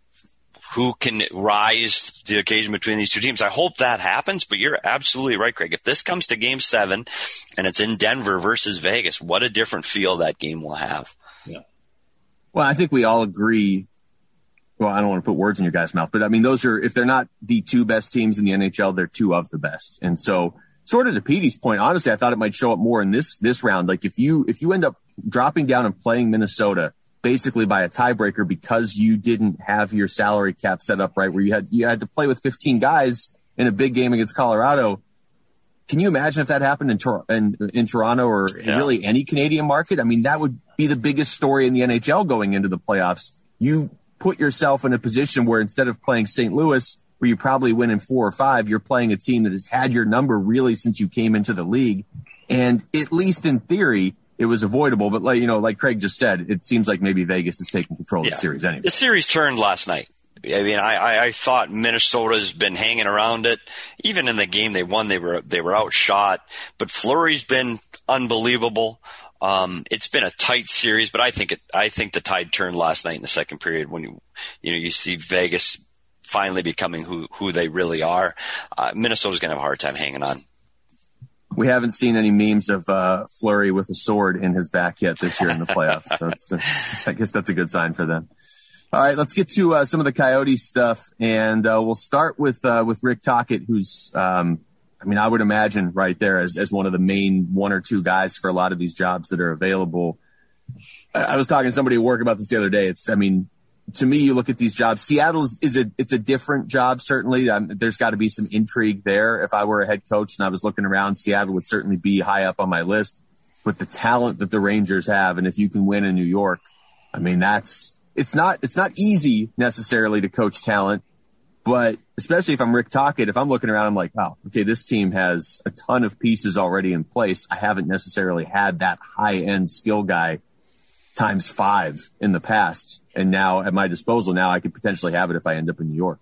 who can rise to the occasion between these two teams. I hope that happens, but you're absolutely right, Craig. If this comes to game seven and it's in Denver versus Vegas, what a different feel that game will have. Yeah. Well, I think we all agree. Well, I don't want to put words in your guys' mouth, but I mean, those are, if they're not the two best teams in the N H L, they're two of the best. And so sort of to Petey's point, honestly, I thought it might show up more in this, this round. Like if you, if you end up dropping down and playing Minnesota basically by a tiebreaker because you didn't have your salary cap set up right, where you had, you had to play with fifteen guys in a big game against Colorado. Can you imagine if that happened in, Tor- in, in Toronto or yeah. really any Canadian market? I mean, that would be the biggest story in the N H L going into the playoffs. You put yourself in a position where instead of playing Saint Louis, where you probably win in four or five, you're playing a team that has had your number really since you came into the league. And at least in theory, it was avoidable. But like, you know, like Craig just said, it seems like maybe Vegas is taking control yeah. of the series anyway. The series turned last night. I mean, I, I, I thought Minnesota's been hanging around it. Even in the game they won, they were, they were outshot, but Fleury's been unbelievable. Um, it's been a tight series, but I think it, I think the tide turned last night in the second period when you, you know, you see Vegas finally becoming who, who they really are. Uh, Minnesota's going to have a hard time hanging on. We haven't seen any memes of uh, Fleury with a sword in his back yet this year in the playoffs. So it's, it's, I guess that's a good sign for them. All right, let's get to uh, some of the Coyotes stuff, and uh, we'll start with uh, with Rick Tocchet, who's, um, I mean, I would imagine right there as as one of the main one or two guys for a lot of these jobs that are available. I, I was talking to somebody at work about this the other day. It's, I mean, to me, you look at these jobs. Seattle is, is a it's a different job, certainly. Um, there's got to be some intrigue there. If I were a head coach and I was looking around, Seattle would certainly be high up on my list. But the talent that the Rangers have, and if you can win in New York, I mean, that's it's not it's not easy necessarily to coach talent. But especially if I'm Rick Tocchet, if I'm looking around, I'm like, wow, okay, this team has a ton of pieces already in place. I haven't necessarily had that high end skill guy times five in the past. And now at my disposal, now I could potentially have it if I end up in New York.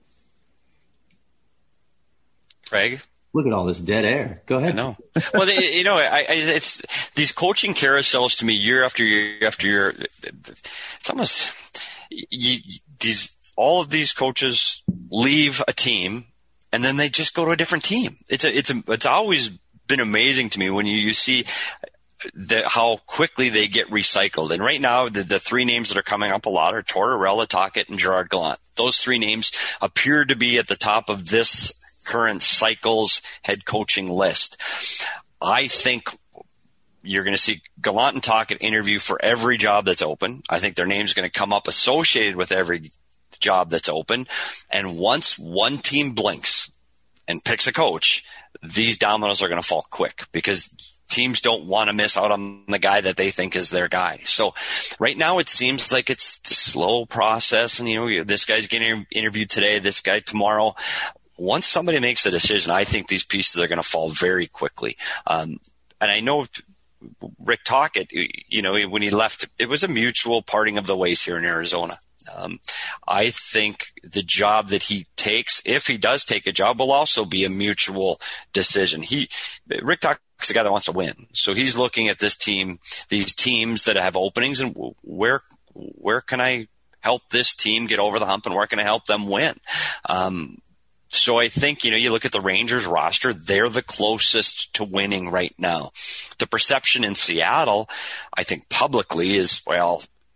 Craig? Look at all this dead air. Go ahead. No. Well, they, you know, I, I, it's these coaching carousels to me year after year after year. It's almost you, these, all of these coaches leave a team and then they just go to a different team. It's a, it's a, it's always been amazing to me when you, you see the, how quickly they get recycled. And right now, the, the three names that are coming up a lot are Tortorella, Tocchet, and Gerard Gallant. Those three names appear to be at the top of this current cycle's head coaching list. I think you're going to see Gallant and Tocchet interview for every job that's open. I think their name's going to come up associated with every job that's open. And once one team blinks and picks a coach, these dominoes are going to fall quick because teams don't want to miss out on the guy that they think is their guy. So right now it seems like it's a slow process. And, you know, this guy's getting interviewed today, this guy tomorrow. Once somebody makes a decision, I think these pieces are going to fall very quickly. Um, and I know Rick Tocchet, you know, when he left, it was a mutual parting of the ways here in Arizona. Um, I think the job that he takes, if he does take a job, will also be a mutual decision. He, Rick Tocchet's a guy that wants to win. So he's looking at this team, these teams that have openings, and where, where can I help this team get over the hump and where can I help them win? Um, So I think, you know, you look at the Rangers roster, they're the closest to winning right now. The perception in Seattle, I think publicly is, well,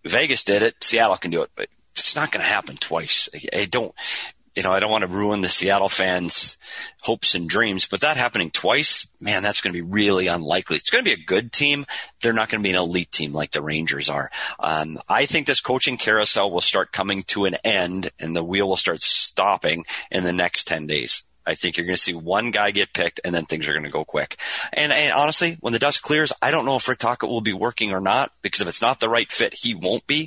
Vegas did it. Seattle can do it, but it's not going to happen twice. I, I don't, you know, I don't want to ruin the Seattle fans' hopes and dreams, but that happening twice, man, that's going to be really unlikely. It's going to be a good team. They're not going to be an elite team like the Rangers are. Um, I think this coaching carousel will start coming to an end and the wheel will start stopping in the next ten days. I think you're going to see one guy get picked and then things are going to go quick. And, and honestly, when the dust clears, I don't know if Rick Tocchet will be working or not, because if it's not the right fit, he won't be.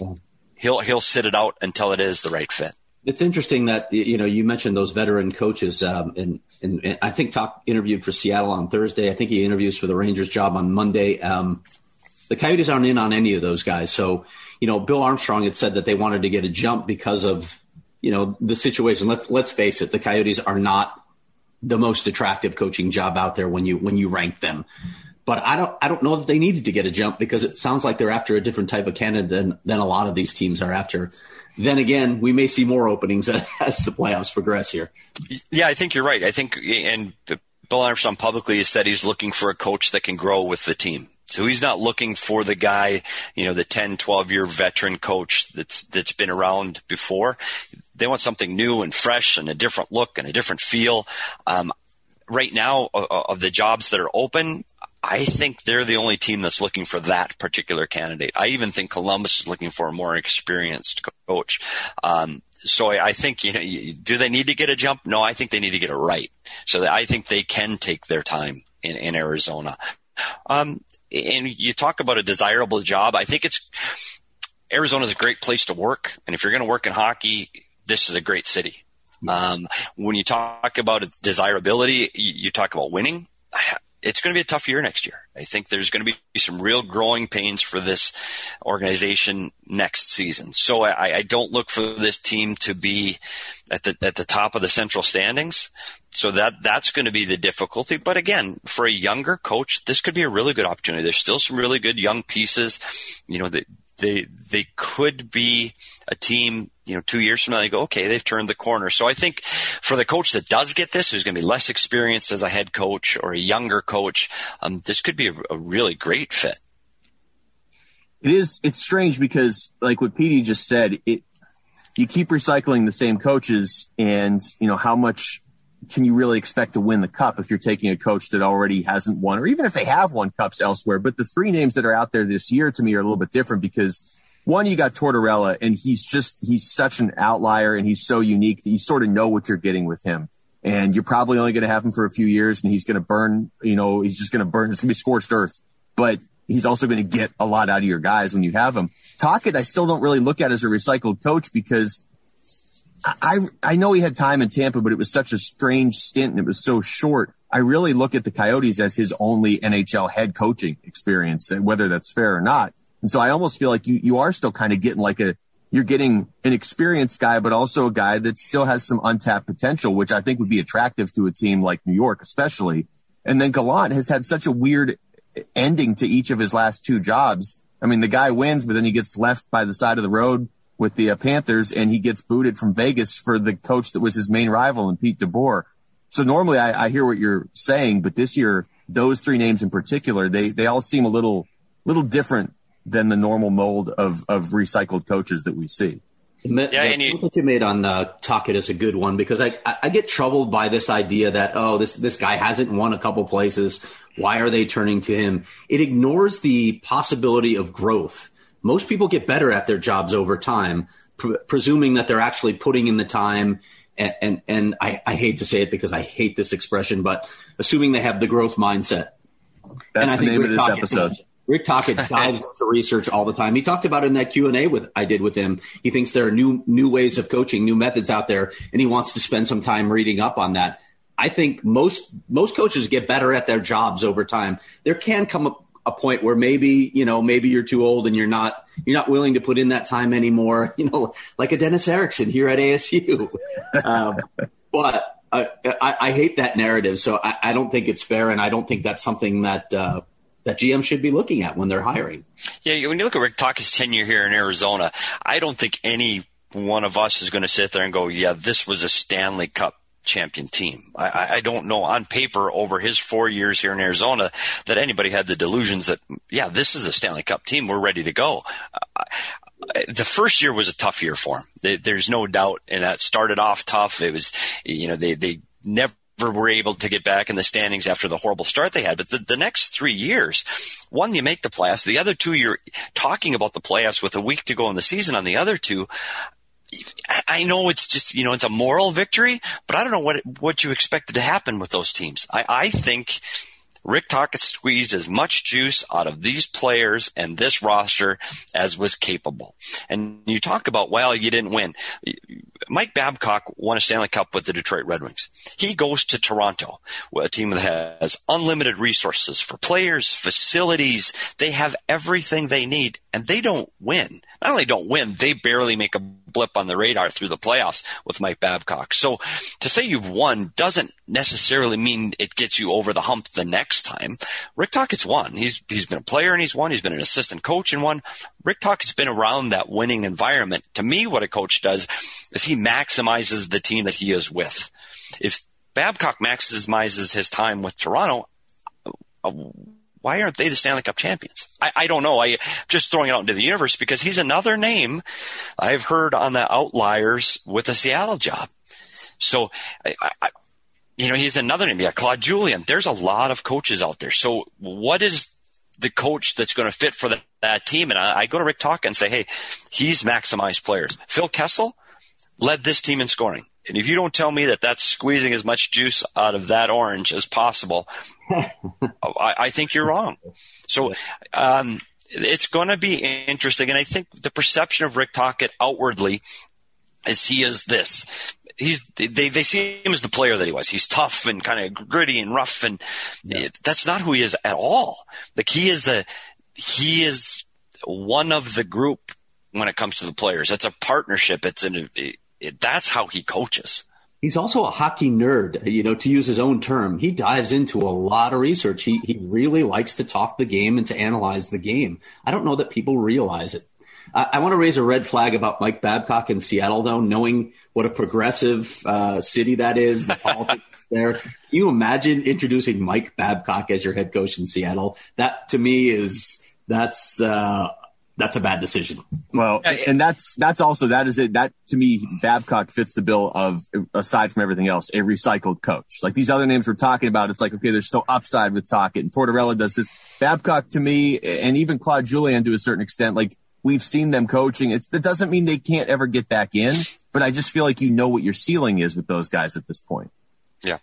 He'll, he'll sit it out until it is the right fit. It's interesting that, you know, you mentioned those veteran coaches, um, and, and, and I think Tocchet interviewed for Seattle on Thursday. I think he interviews for the Rangers job on Monday. Um, the Coyotes aren't in on any of those guys. So, you know, Bill Armstrong had said that they wanted to get a jump because of, you know, the situation. Let's, let's face it. The Coyotes are not the most attractive coaching job out there when you, when you rank them. But I don't, I don't know that they needed to get a jump, because it sounds like they're after a different type of candidate than, than a lot of these teams are after. Then again, we may see more openings as the playoffs progress here. Yeah, I think you're right. I think, and Bill Armstrong publicly has said he's looking for a coach that can grow with the team. So he's not looking for the guy, you know, the ten, twelve year veteran coach that's, that's been around before. They want something new and fresh and a different look and a different feel. Um, right now, uh, of the jobs that are open, I think they're the only team that's looking for that particular candidate. I even think Columbus is looking for a more experienced coach. Um, so I, I think, you know, do they need to get a jump? No, I think they need to get it right. So that I think they can take their time in, in Arizona. Um, and you talk about a desirable job. I think it's Arizona is a great place to work. And if you're going to work in hockey, this is a great city. Um, when you talk about desirability, you, you talk about winning. It's going to be a tough year next year. I think there's going to be some real growing pains for this organization next season. So I, I don't look for this team to be at the at the top of the central standings. So that that's going to be the difficulty. But again, for a younger coach, this could be a really good opportunity. There's still some really good young pieces. You know, they they they could be a team, you know, two years from now, they go, okay, they've turned the corner. So I think for the coach that does get this, who's going to be less experienced as a head coach or a younger coach, um, this could be a, a really great fit. It is. It's strange because, like what Petey just said, it you keep recycling the same coaches, and you know how much can you really expect to win the cup if you're taking a coach that already hasn't won, or even if they have won cups elsewhere. But the three names that are out there this year to me are a little bit different because. One, you got Tortorella, and he's just, he's such an outlier and he's so unique that you sort of know what you're getting with him. And you're probably only going to have him for a few years, and he's going to burn, you know, he's just going to burn. It's going to be scorched earth, but he's also going to get a lot out of your guys when you have him. Tocchet, I still don't really look at as a recycled coach because I, I know he had time in Tampa, but it was such a strange stint and it was so short. I really look at the Coyotes as his only N H L head coaching experience, and whether that's fair or not. And so I almost feel like you, you are still kind of getting like a, you're getting an experienced guy, but also a guy that still has some untapped potential, which I think would be attractive to a team like New York, especially. And then Gallant has had such a weird ending to each of his last two jobs. I mean, the guy wins, but then he gets left by the side of the road with the uh, Panthers, and he gets booted from Vegas for the coach that was his main rival, and Pete DeBoer. So normally I, I hear what you're saying, but this year, those three names in particular, they, they all seem a little, little different than the normal mold of, of recycled coaches that we see. Yeah, the and you, point that you made on uh, Tocchet is a good one because I, I I get troubled by this idea that, oh, this this guy hasn't won a couple places. Why are they turning to him? It ignores the possibility of growth. Most people get better at their jobs over time, pr- presuming that they're actually putting in the time. And and, and I, I hate to say it because I hate this expression, but assuming they have the growth mindset. That's and I the think name Rick of this Tocchet, episode. Rick Tocchet dives into research all the time. He talked about it in that Q and A with I did with him. He thinks there are new new ways of coaching, new methods out there, and he wants to spend some time reading up on that. I think most most coaches get better at their jobs over time. There can come a, a point where maybe, you know, maybe you're too old and you're not you're not willing to put in that time anymore, you know, like a Dennis Erickson here at A S U. um, but uh, I, I hate that narrative, so I, I don't think it's fair, and I don't think that's something that uh, – that G M should be looking at when they're hiring. Yeah, when you look at Rick Tocchet's tenure here in Arizona, I don't think any one of us is going to sit there and go, yeah, this was a Stanley Cup champion team. I, I don't know on paper over his four years here in Arizona that anybody had the delusions that, yeah, this is a Stanley Cup team. We're ready to go. the first year was a tough year for him. There's no doubt. And that started off tough. It was, you know, they, they never were able to get back in the standings after the horrible start they had. But the, the next three years, one, you make the playoffs. The other two, you're talking about the playoffs with a week to go in the season. On the other two, I know it's just, you know, it's a moral victory, but I don't know what, what you expected to happen with those teams. I, I think Rick Tocchet squeezed as much juice out of these players and this roster as was capable. And you talk about, well, you didn't win. Mike Babcock won a Stanley Cup with the Detroit Red Wings. He goes to Toronto, a team that has unlimited resources for players, facilities. They have everything they need, and they don't win. Not only don't win, they barely make a blip on the radar through the playoffs with Mike Babcock. So to say you've won doesn't necessarily mean it gets you over the hump the next time. Rick Tocchet's won. He's he's been a player and he's won. He's been an assistant coach and won. Rick Tocchet's been around that winning environment. To me, what a coach does is he maximizes the team that he is with. If Babcock maximizes his time with Toronto, uh, why aren't they the Stanley Cup champions? I, I don't know. I just throwing it out into the universe because he's another name I've heard on the outliers with the Seattle job. So, I, I, you know, he's another name. Yeah, Claude Julien. There's a lot of coaches out there. So what is the coach that's going to fit for the, that team? And I, I go to Rick Tocchet and say, hey, he's maximized players. Phil Kessel led this team in scoring. And if you don't tell me that that's squeezing as much juice out of that orange as possible, I, I think you're wrong. So um, it's going to be interesting. And I think the perception of Rick Tocchet outwardly is he is this. He's they, they see him as the player that he was. He's tough and kind of gritty and rough, and yeah. it, that's not who he is at all. Like he is a he is one of the group when it comes to the players. It's a partnership. It's an it, that's how he coaches. He's also a hockey nerd, you know, to use his own term. He dives into a lot of research. He he really likes to talk the game and to analyze the game. I don't know that people realize it. I, I want to raise a red flag about Mike Babcock in Seattle, though, knowing what a progressive uh, city that is, the politics there. Can you imagine introducing Mike Babcock as your head coach in Seattle? That, to me, is that's uh, that's a bad decision. Well, and that's that's also that is it. That to me, Babcock fits the bill of, aside from everything else, a recycled coach. Like these other names we're talking about, it's like, okay, there's still upside with Tocchet, and Tortorella does this. Babcock, to me, and even Claude Julien to a certain extent, like we've seen them coaching. It's that doesn't mean they can't ever get back in, but I just feel like you know what your ceiling is with those guys at this point. Yeah,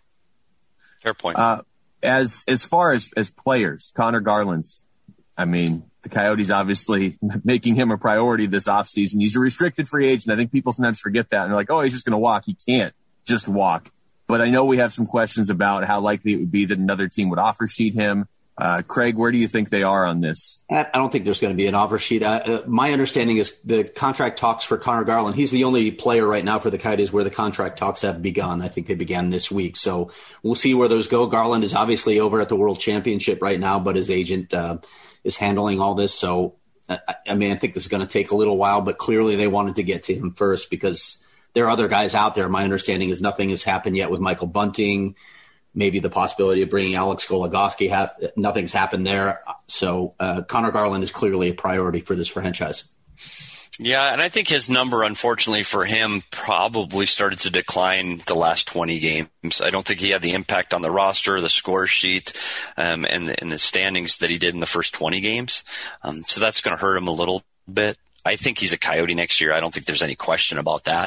fair point. Uh, as as far as as players, Connor Garland's, I mean. The Coyotes obviously making him a priority this offseason. He's a restricted free agent. I think people sometimes forget that. And they're like, oh, he's just going to walk. He can't just walk. But I know we have some questions about how likely it would be that another team would offer sheet him. Uh, Craig, where do you think they are on this? I don't think there's going to be an offer sheet. Uh, my understanding is the contract talks for Connor Garland. He's the only player right now for the Coyotes where the contract talks have begun. I think they began this week. So we'll see where those go. Garland is obviously over at the World Championship right now, but his agent uh, is handling all this. So, I, I mean, I think this is going to take a little while, but clearly they wanted to get to him first because there are other guys out there. My understanding is nothing has happened yet with Michael Bunting. Maybe the possibility of bringing Alex Goligoski, ha- nothing's happened there. So uh, Connor Garland is clearly a priority for this franchise. Yeah, and I think his number, unfortunately for him, probably started to decline the last twenty games. I don't think he had the impact on the roster, the score sheet, um, and, and the standings that he did in the first twenty games. Um, so that's going to hurt him a little bit. I think he's a Coyote next year. I don't think there's any question about that.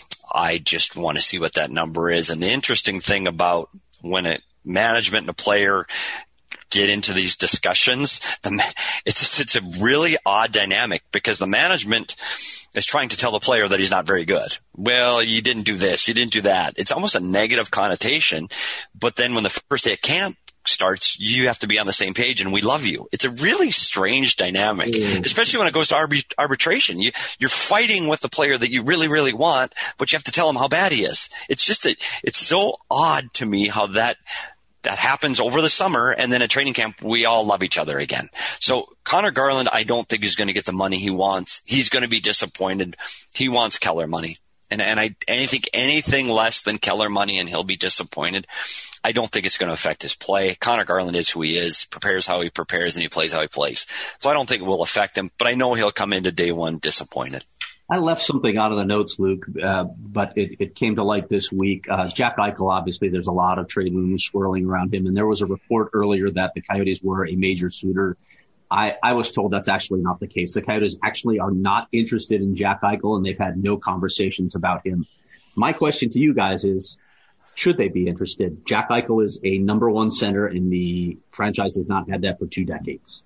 I just want to see what that number is. And the interesting thing about when a management and a player get into these discussions, the, it's it's a really odd dynamic because the management is trying to tell the player that he's not very good. Well, you didn't do this, you didn't do that. It's almost a negative connotation. But then when the first day of camp starts, you have to be on the same page and we love you. It's a really strange dynamic, mm. especially when it goes to arbit- arbitration. You, you're fighting with the player that you really, really want, but you have to tell him how bad he is. It's just that it's so odd to me how that that happens over the summer, and then at training camp, we all love each other again. So Connor Garland, I don't think is going to get the money he wants. He's going to be disappointed. He wants Keller money. And and I, I think anything less than Keller money and he'll be disappointed. I don't think it's going to affect his play. Connor Garland is who he is, prepares how he prepares, and he plays how he plays. So I don't think it will affect him, but I know he'll come into day one disappointed. I left something out of the notes, Luke, uh, but it, it came to light this week. Uh, Jack Eichel, obviously, there's a lot of trade rumors swirling around him, and there was a report earlier that the Coyotes were a major suitor. I, I was told that's actually not the case. The Coyotes actually are not interested in Jack Eichel, and they've had no conversations about him. My question to you guys is, should they be interested? Jack Eichel is a number one center, and the franchise has not had that for two decades.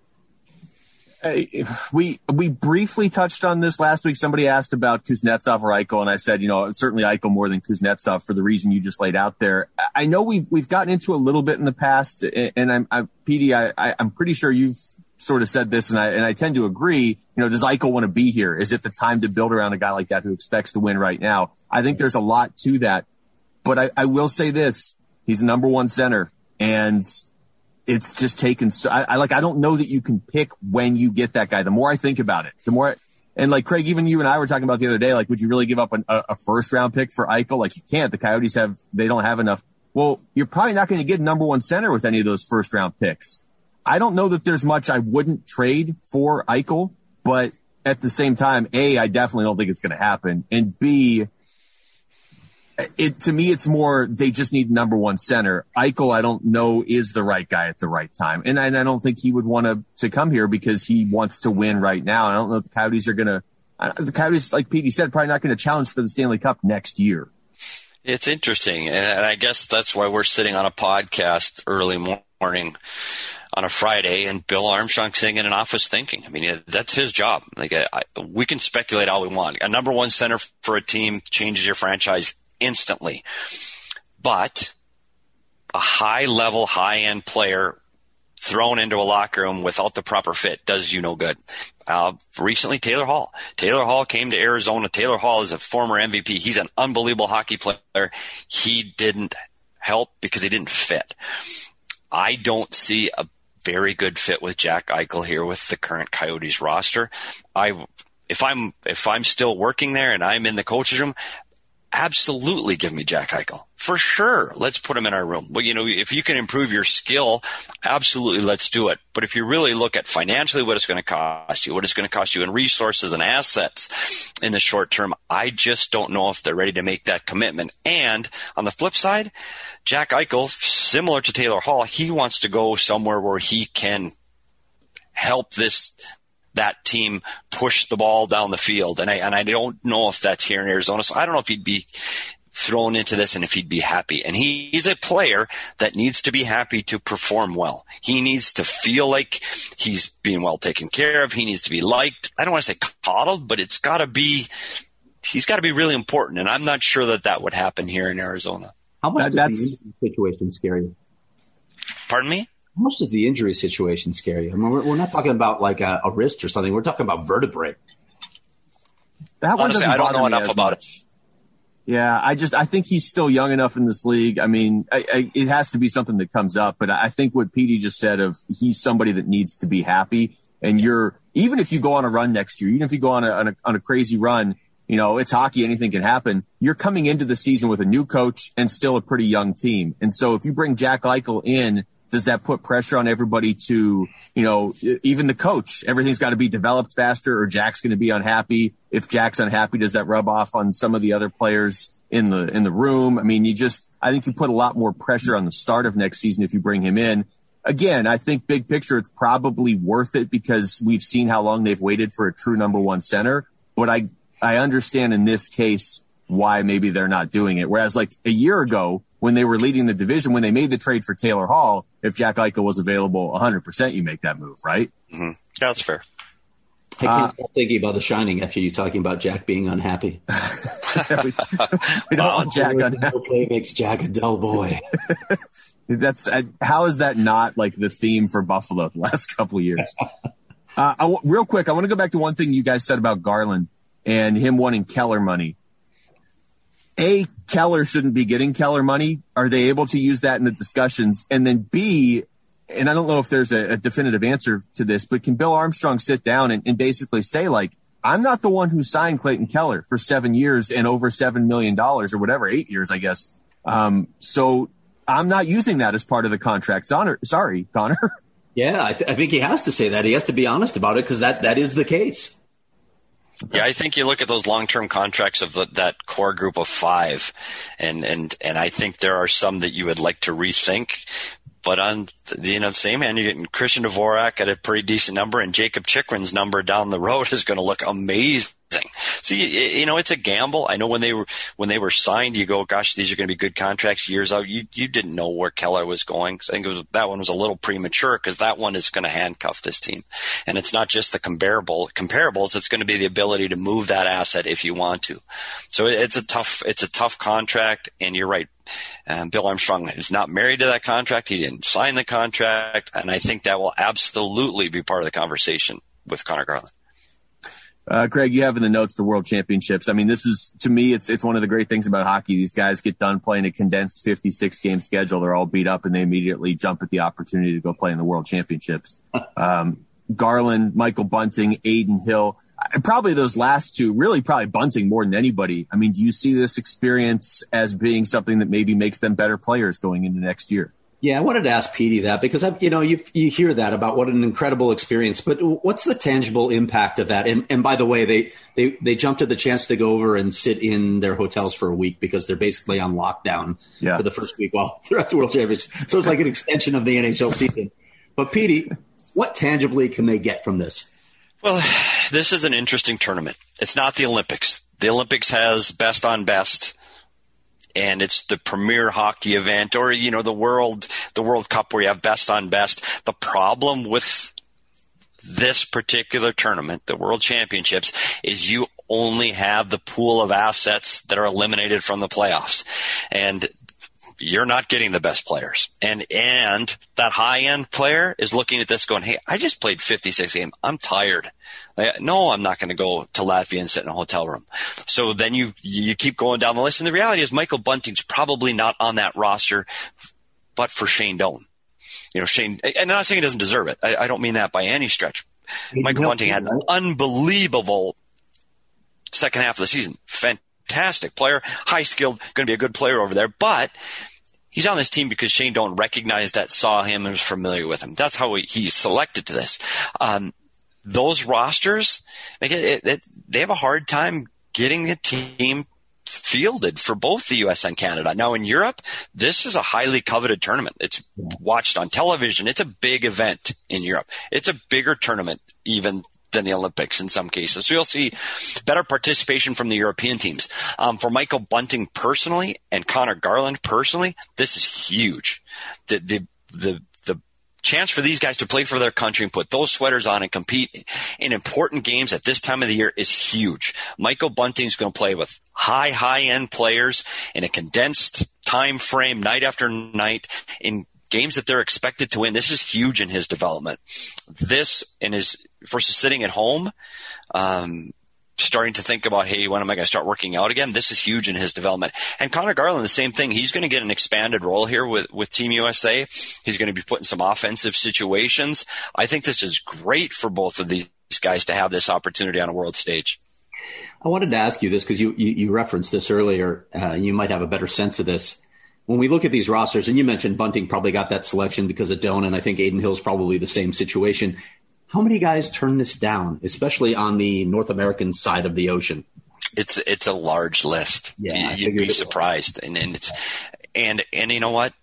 Uh, we we briefly touched on this last week. Somebody asked about Kuznetsov or Eichel, and I said, you know, certainly Eichel more than Kuznetsov for the reason you just laid out there. I know we've we've gotten into a little bit in the past, and I'm, I'm P D, I, I, I'm pretty sure you've sort of said this, and I and I tend to agree. You know, does Eichel want to be here? Is it the time to build around a guy like that who expects to win right now? I think there's a lot to that, but I, I will say this: he's number one center, and it's just taken. So, I, I like. I don't know that you can pick when you get that guy. The more I think about it, the more. I, and like Craig, even you and I were talking about the other day. Like, would you really give up an, a, a first round pick for Eichel? Like, you can't. The Coyotes have. They don't have enough. Well, you're probably not going to get number one center with any of those first round picks. I don't know that there's much I wouldn't trade for Eichel, but at the same time, A, I definitely don't think it's going to happen, and B, it, to me, it's more, they just need number one center. Eichel, I don't know, is the right guy at the right time. And I, and I don't think he would want to, to come here because he wants to win right now. And I don't know if the Coyotes are going to, uh, the Coyotes, like Petey said, probably not going to challenge for the Stanley Cup next year. It's interesting. And I guess that's why we're sitting on a podcast early morning on a Friday, and Bill Armstrong sitting in an office thinking. I mean, that's his job. Like, I, I, we can speculate all we want. A number one center for a team changes your franchise instantly. But a high-level, high-end player thrown into a locker room without the proper fit does you no good. Uh, recently, Taylor Hall. Taylor Hall came to Arizona. Taylor Hall is a former M V P. He's an unbelievable hockey player. He didn't help because he didn't fit. I don't see a very good fit with Jack Eichel here with the current Coyotes roster. I, if I'm, if I'm still working there and I'm in the coach's room, absolutely give me Jack Eichel. For sure. Let's put him in our room. But, you know, if you can improve your skill, absolutely let's do it. But if you really look at financially what it's going to cost you, what it's going to cost you in resources and assets in the short term, I just don't know if they're ready to make that commitment. And on the flip side, Jack Eichel, similar to Taylor Hall, he wants to go somewhere where he can help this that team push the ball down the field. And I, and I don't know if that's here in Arizona. So I don't know if he'd be thrown into this and if he'd be happy. And he, he's a player that needs to be happy to perform well. He needs to feel like he's being well taken care of. He needs to be liked. I don't want to say coddled, but it's got to be, he's got to be really important. And I'm not sure that that would happen here in Arizona. How much that, does the situation scare you? Pardon me? How much does the injury situation scare you? I mean, we're, we're not talking about like a, a wrist or something. We're talking about vertebrae. That one Honestly, I don't know enough about much. it. Yeah, I just I think he's still young enough in this league. I mean, I, I, it has to be something that comes up. But I think what Petey just said of he's somebody that needs to be happy. And you're even if you go on a run next year, even if you go on a, on a on a crazy run, you know, it's hockey. Anything can happen. You're coming into the season with a new coach and still a pretty young team. And so if you bring Jack Eichel in, does that put pressure on everybody to, you know, even the coach, everything's got to be developed faster or Jack's going to be unhappy. If Jack's unhappy, does that rub off on some of the other players in the, in the room? I mean, you just, I think you put a lot more pressure on the start of next season if you bring him in. Again, I think big picture, it's probably worth it because we've seen how long they've waited for a true number one center. But I, I understand in this case why maybe they're not doing it. Whereas like a year ago, when they were leading the division, when they made the trade for Taylor Hall, if Jack Eichel was available one hundred percent, you make that move, right? Mm-hmm. Yeah, that's fair. I can't uh, stop thinking about The Shining after you talking about Jack being unhappy. we, we don't want Jack unhappy. Okay, makes Jack a dull boy. That's uh, how is that not like the theme for Buffalo the last couple of years? uh, I, real quick, I want to go back to one thing you guys said about Garland and him wanting Keller money. A, Keller shouldn't be getting Keller money. Are they able to use that in the discussions? And then B, and I don't know if there's a, a definitive answer to this, but can Bill Armstrong sit down and, and basically say, like, I'm not the one who signed Clayton Keller for seven years and over seven million dollars or whatever, eight years, I guess. Um, so I'm not using that as part of the contract. Connor, sorry, Connor. Yeah, I, th- I think he has to say that. He has to be honest about it because that, that is the case. Yeah, I think you look at those long-term contracts of the, that core group of five, and, and, and I think there are some that you would like to rethink. But on the, you know, the same hand, you're getting Christian Dvorak at a pretty decent number, and Jacob Chikrin's number down the road is going to look amazing. So, you, you know, it's a gamble. I know when they were, when they were signed, you go, gosh, these are going to be good contracts years out. You, you didn't know where Keller was going. So I think it was, that one was a little premature because that one is going to handcuff this team. And it's not just the comparable comparables. It's going to be the ability to move that asset if you want to. So it's a tough, it's a tough contract. And you're right. Um, Bill Armstrong is not married to that contract. He didn't sign the contract. And I think that will absolutely be part of the conversation with Connor Garland. Uh, Craig, you have in the notes the World Championships. I mean, this is, to me, it's it's one of the great things about hockey. These guys get done playing a condensed fifty-six game schedule. They're all beat up, and they immediately jump at the opportunity to go play in the World Championships. Um, Garland, Michael Bunting, Adin Hill, probably those last two, really probably Bunting more than anybody. I mean, do you see this experience as being something that maybe makes them better players going into next year? Yeah, I wanted to ask Petey that because, I, you know, you you hear that about what an incredible experience, but what's the tangible impact of that? And, and by the way, they, they, they jumped at the chance to go over and sit in their hotels for a week because they're basically on lockdown yeah. for the first week while they're at the World Championship. So it's like an extension of the N H L season. But Petey, what tangibly can they get from this? Well, this is an interesting tournament. It's not the Olympics. The Olympics has best on best. And it's the premier hockey event, or, you know, the world, the World Cup where you have best on best. The problem with this particular tournament, the World Championships, is you only have the pool of assets that are eliminated from the playoffs. And you're not getting the best players. And, and that high end player is looking at this going, hey, I just played fifty-six games. I'm tired. Like, no, I'm not going to go to Latvia and sit in a hotel room. So then you, you keep going down the list. And the reality is Michael Bunting's probably not on that roster, but for Shane Doan. You know, Shane, and I'm not saying he doesn't deserve it. I, I don't mean that by any stretch. Michael Bunting had an unbelievable second half of the season. Fantastic player, high skilled, going to be a good player over there, but he's on this team because Shane Doan recognized that, saw him, and was familiar with him. That's how he, he's selected to this. Um, those rosters, like it, it, they have a hard time getting a team fielded for both the U S and Canada. Now in Europe, this is a highly coveted tournament. It's watched on television. It's a big event in Europe. It's a bigger tournament even than the Olympics in some cases. So you'll see better participation from the European teams. Um, for Michael Bunting personally and Connor Garland personally, this is huge. The, the, the, the chance for these guys to play for their country and put those sweaters on and compete in important games at this time of the year is huge. Michael Bunting's going to play with high, high end players in a condensed time frame, night after night, in games that they're expected to win. This is huge in his development. This in his versus sitting at home, um, starting to think about, hey, when am I going to start working out again? This is huge in his development. And Connor Garland, the same thing. He's going to get an expanded role here with, with Team U S A. He's going to be put in some offensive situations. I think this is great for both of these guys to have this opportunity on a world stage. I wanted to ask you this because you, you, you referenced this earlier. Uh, you might have a better sense of this. When we look at these rosters, and you mentioned Bunting probably got that selection because of Doan, and I think Adin Hill's probably the same situation. How many guys turn this down, especially on the North American side of the ocean? It's it's a large list. Yeah, You'd be surprised. And, and it's and and you know what?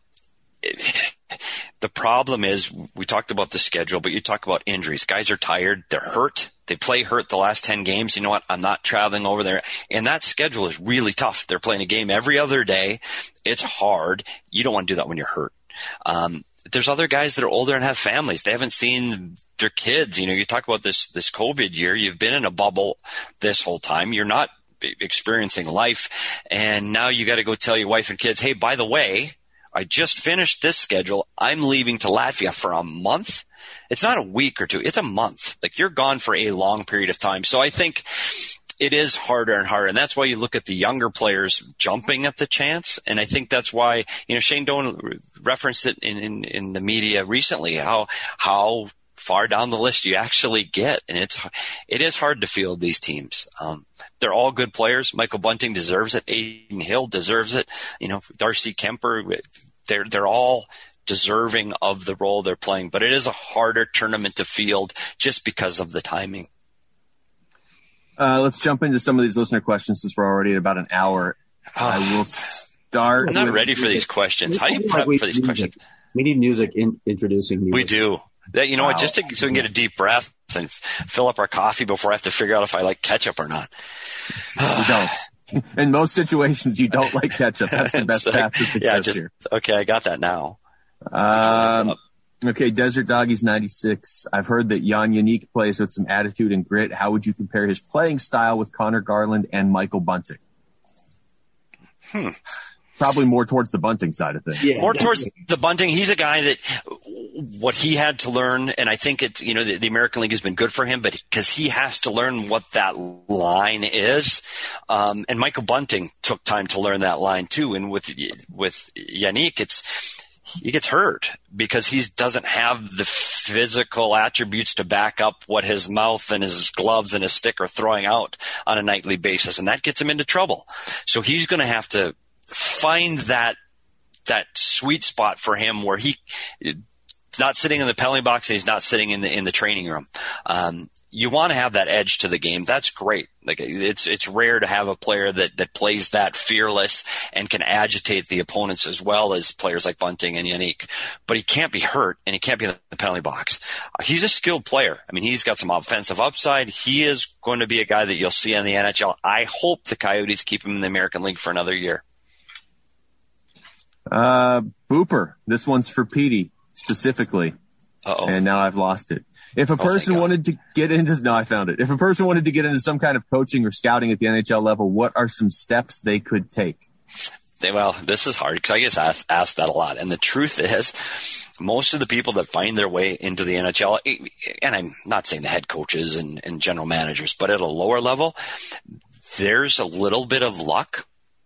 It, the problem is, we talked about the schedule, but you talk about injuries. Guys are tired. They're hurt. They play hurt the last ten games. You know what? I'm not traveling over there. And that schedule is really tough. They're playing a game every other day. It's hard. You don't want to do that when you're hurt. Um, there's other guys that are older and have families. They haven't seen their kids. You know, you talk about this, this COVID year. You've been in a bubble this whole time. You're not experiencing life. And now you got to go tell your wife and kids, hey, by the way, I just finished this schedule. I'm leaving to Latvia for a month. It's not a week or two. It's a month. Like, you're gone for a long period of time. So I think it is harder and harder. And that's why you look at the younger players jumping at the chance. And I think that's why, you know, Shane Doan referenced it in, in, in the media recently, how, how far down the list you actually get. And it's, it is hard to field these teams. Um, they're all good players. Michael Bunting deserves it. Aiden Hill deserves it. You know, Darcy Kemper, they're, they're all deserving of the role they're playing, but it is a harder tournament to field just because of the timing. Uh, let's jump into some of these listener questions since we're already at about an hour. I will start. I'm not with, ready for these questions. How do you prep for these questions? We need music in, introducing music. We do. That, you know wow. what, just to, so we can get a deep breath and f- fill up our coffee before I have to figure out if I like ketchup or not. You don't. In most situations, you don't like ketchup. That's the best path to success yeah, just, here. Okay, I got that now. Um, okay, Desert Doggies ninety-six. I've heard that Jan Yannick plays with some attitude and grit. How would you compare his playing style with Connor Garland and Michael Bunting? Hmm. Probably more towards the Bunting side of things. Yeah, more towards the Bunting. He's a guy that what he had to learn, and I think it's, you know, the, the American League has been good for him, but because he has to learn what that line is. Um, and Michael Bunting took time to learn that line too. And with, with Yannick, it's, he gets hurt because he doesn't have the physical attributes to back up what his mouth and his gloves and his stick are throwing out on a nightly basis. And that gets him into trouble. So he's going to have to find that, that sweet spot for him where he, not sitting in the penalty box and he's not sitting in the, in the training room. Um, you want to have that edge to the game. That's great. Like it's, it's rare to have a player that, that plays that fearless and can agitate the opponents as well as players like Bunting and Yannick, but he can't be hurt and he can't be in the penalty box. Uh, he's a skilled player. I mean, he's got some offensive upside. He is going to be a guy that you'll see in the N H L. I hope the Coyotes keep him in the American League for another year. Uh, Booper. This one's for Petey specifically. Uh-oh. And now I've lost it. If a person oh, wanted to get into, no, I found it. If a person wanted to get into some kind of coaching or scouting at the N H L level, what are some steps they could take? Well, this is hard because I get asked, asked that a lot. And the truth is, most of the people that find their way into the N H L, and I'm not saying the head coaches and, and general managers, but at a lower level, there's a little bit of luck.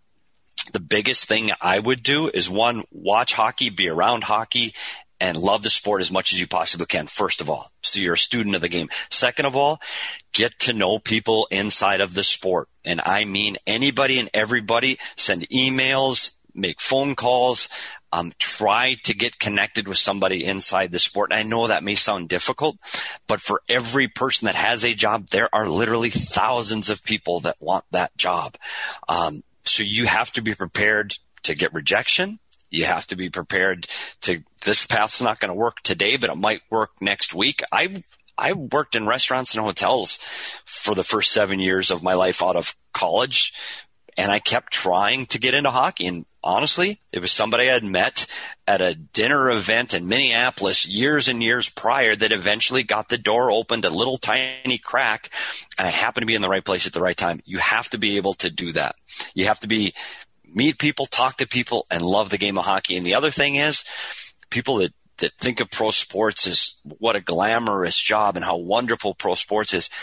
The biggest thing I would do is, one, watch hockey, be around hockey, and love the sport as much as you possibly can, first of all. So you're a student of the game. Second of all, get to know people inside of the sport. And I mean anybody and everybody. Send emails, make phone calls, um, try to get connected with somebody inside the sport. And I know that may sound difficult, but for every person that has a job, there are literally thousands of people that want that job. Um, so you have to be prepared to get rejection. You have to be prepared to, this path's not going to work today, but it might work next week. I, I worked in restaurants and hotels for the first seven years of my life out of college, and I kept trying to get into hockey. And honestly, it was somebody I had met at a dinner event in Minneapolis years and years prior that eventually got the door opened, a little tiny crack, and I happened to be in the right place at the right time. You have to be able to do that. You have to be meet people, talk to people, and love the game of hockey. And the other thing is, people that, that think of pro sports as what a glamorous job and how wonderful pro sports is.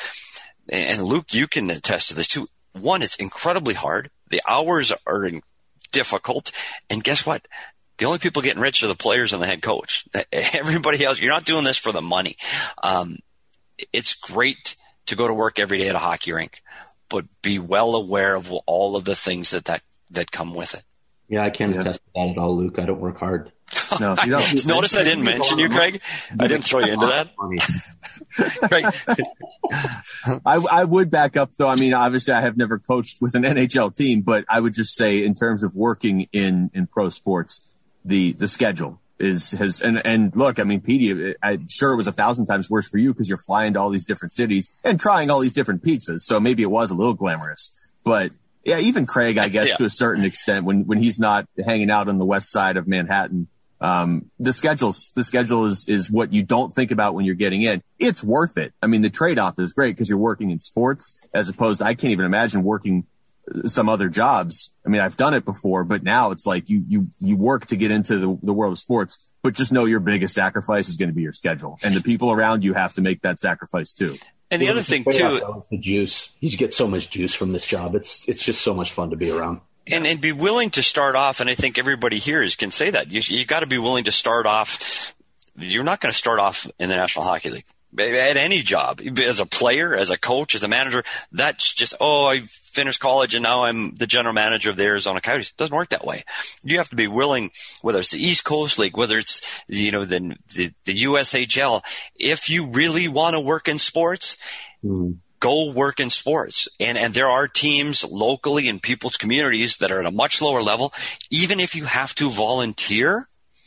And Luke, you can attest to this too. One, it's incredibly hard. The hours are difficult. And guess what? The only people getting rich are the players and the head coach. Everybody else, you're not doing this for the money. Um, it's great to go to work every day at a hockey rink, but be well aware of all of the things that that that come with it. Yeah, I can't yeah. attest to that at all, Luke. I don't work hard. No, you don't. Notice I didn't mention you, Craig. I didn't throw you into that. Craig. I, I would back up, though. I mean, obviously, I have never coached with an N H L team, but I would just say, in terms of working in, in pro sports, the the schedule is has and and look. I mean, Petey, I'm sure it was a thousand times worse for you because you're flying to all these different cities and trying all these different pizzas. So maybe it was a little glamorous, but. Yeah, even Craig, I guess, yeah. to a certain extent, when, when he's not hanging out on the west side of Manhattan, um, the schedules, the schedule is, is what you don't think about when you're getting in. It's worth it. I mean, the trade-off is great because you're working in sports as opposed to, I can't even imagine working some other jobs. I mean, I've done it before, but now it's like you, you, you work to get into the, the world of sports, but just know your biggest sacrifice is going to be your schedule, and the people around you have to make that sacrifice too. And the yeah, other thing too, is the juice. You get so much juice from this job. It's it's just so much fun to be around. And and be willing to start off. And I think everybody here is, can say that you you got to be willing to start off you're not going to start off in the National Hockey League. At any job, as a player, as a coach, as a manager, that's just, oh, I finished college and now I'm the general manager of the Arizona Coyotes. It doesn't work that way. You have to be willing, whether it's the East Coast League, whether it's, you know, the, the, the U S H L, if you really want to work in sports, mm. go work in sports. And, and there are teams locally in people's communities that are at a much lower level. Even if you have to volunteer,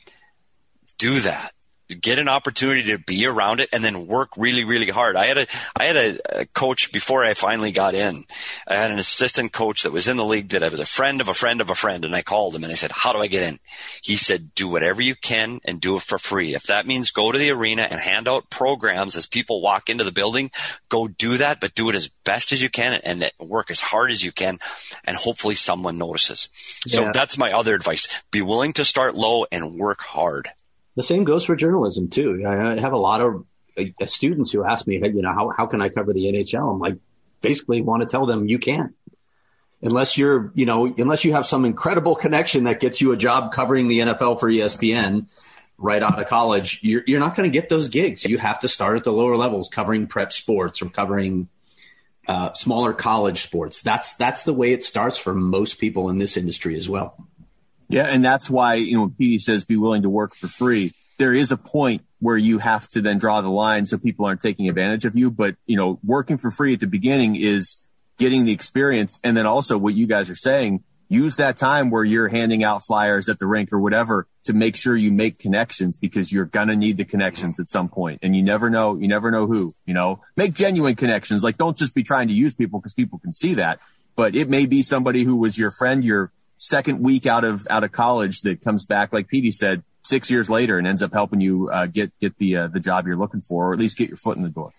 do that. Get an opportunity to be around it and then work really, really hard. I had a, I had a, a coach before I finally got in. I had an assistant coach that was in the league that I was a friend of a friend of a friend. And I called him and I said, how do I get in? He said, do whatever you can and do it for free. If that means go to the arena and hand out programs as people walk into the building, go do that, but do it as best as you can and work as hard as you can. And hopefully someone notices. Yeah. So that's my other advice. Be willing to start low and work hard. The same goes for journalism too. I have a lot of uh, students who ask me, you know, how, how can I cover the N H L? I'm like, basically want to tell them you can't. Unless you're, you know, unless you have some incredible connection that gets you a job covering the N F L for E S P N right out of college, you're, you're not going to get those gigs. You have to start at the lower levels, covering prep sports or covering uh, smaller college sports. That's, that's the way it starts for most people in this industry as well. Yeah, and that's why, you know, when Petey says be willing to work for free, there is a point where you have to then draw the line so people aren't taking advantage of you. But, you know, working for free at the beginning is getting the experience. And then also what you guys are saying, use that time where you're handing out flyers at the rink or whatever to make sure you make connections, because you're going to need the connections at some point. And you never know, you never know who, you know, make genuine connections. Like, don't just be trying to use people because people can see that, but it may be somebody who was your friend, your second week out of, out of college that comes back, like Petey said, six years later and ends up helping you uh, get, get the, uh, the job you're looking for, or at least get your foot in the door.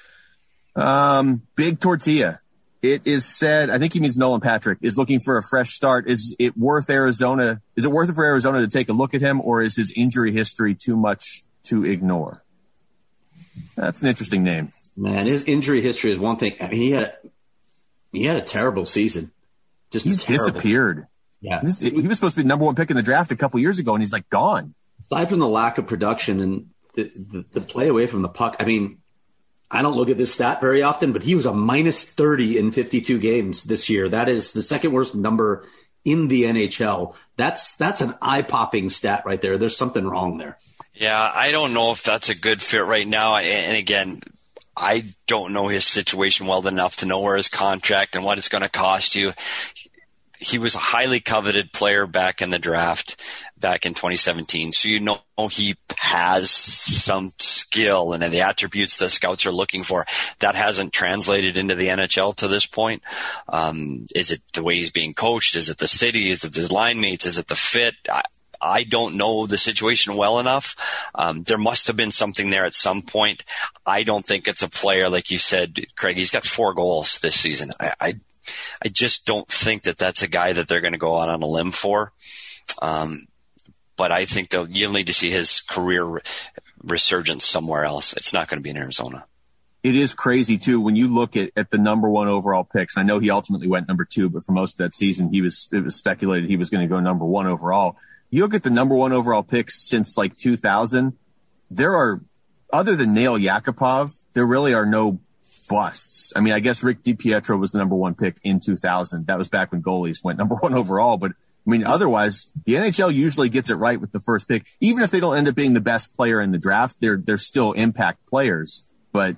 Um, Big Tortilla. It is said, I think he means Nolan Patrick, is looking for a fresh start. Is it worth Arizona? Is it worth it for Arizona to take a look at him, or is his injury history too much to ignore? That's an interesting name. Man, his injury history is one thing. I mean, he had, he had a terrible season. Just He's terrible. disappeared. Yeah. He was, he was supposed to be the number one pick in the draft a couple years ago, and he's like gone. Aside from the lack of production and the, the, the play away from the puck, I mean, I don't look at this stat very often, but he was a minus thirty in fifty-two games this year. That is the second worst number in the N H L. That's that's an eye-popping stat right there. There's something wrong there. Yeah, I don't know if that's a good fit right now. And again, I don't know his situation well enough to know where his contract and what it's going to cost you. He was a highly coveted player back in the draft back in twenty seventeen. So, you know, he has some skill and the attributes that scouts are looking for. That hasn't translated into the N H L to this point. Um, is it the way he's being coached? Is it the city? Is it his line mates? Is it the fit? I, I don't know the situation well enough. Um, there must have been something there at some point. I don't think it's a player, like you said, Craig. He's got four goals this season. I, I I just don't think that that's a guy that they're going to go out on a limb for. Um, but I think they'll, you'll need to see his career re- resurgence somewhere else. It's not going to be in Arizona. It is crazy too when you look at, at the number one overall picks. I know he ultimately went number two, but for most of that season, he was it was speculated he was going to go number one overall. You look at the number one overall picks since like two thousand. There are, other than Nail Yakupov, there really are no busts. I mean, I guess Rick DiPietro was the number one pick in two thousand. That was back when goalies went number one overall. But I mean, otherwise, the N H L usually gets it right with the first pick. Even if they don't end up being the best player in the draft, they're they're still impact players. But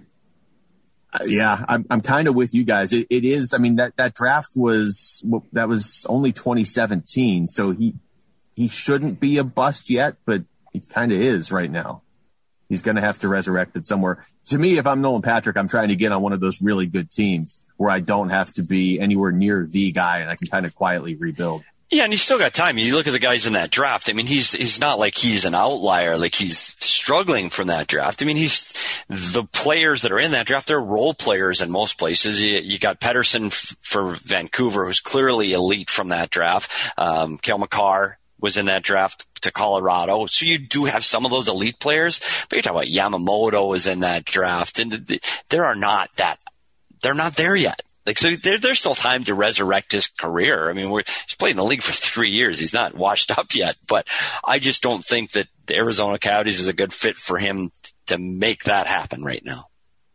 uh, yeah, I'm I'm kind of with you guys. It, it is. I mean, that that draft was that was only twenty seventeen, so he he shouldn't be a bust yet, but he kind of is right now. He's going to have to resurrect it somewhere. To me, if I'm Nolan Patrick, I'm trying to get on one of those really good teams where I don't have to be anywhere near the guy and I can kind of quietly rebuild. Yeah, and he's still got time. You look at the guys in that draft. I mean, he's he's not like he's an outlier, like he's struggling from that draft. I mean, he's the players that are in that draft, they're role players in most places. You, you got Pettersson f- for Vancouver, who's clearly elite from that draft. Um, Cale Makar was in that draft to Colorado. So you do have some of those elite players, but you're talking about Yamamoto is in that draft, and there are not that, they're not there yet. Like, so there, there's still time to resurrect his career. I mean, we're, he's played in the league for three years. He's not washed up yet, but I just don't think that the Arizona Coyotes is a good fit for him to make that happen right now.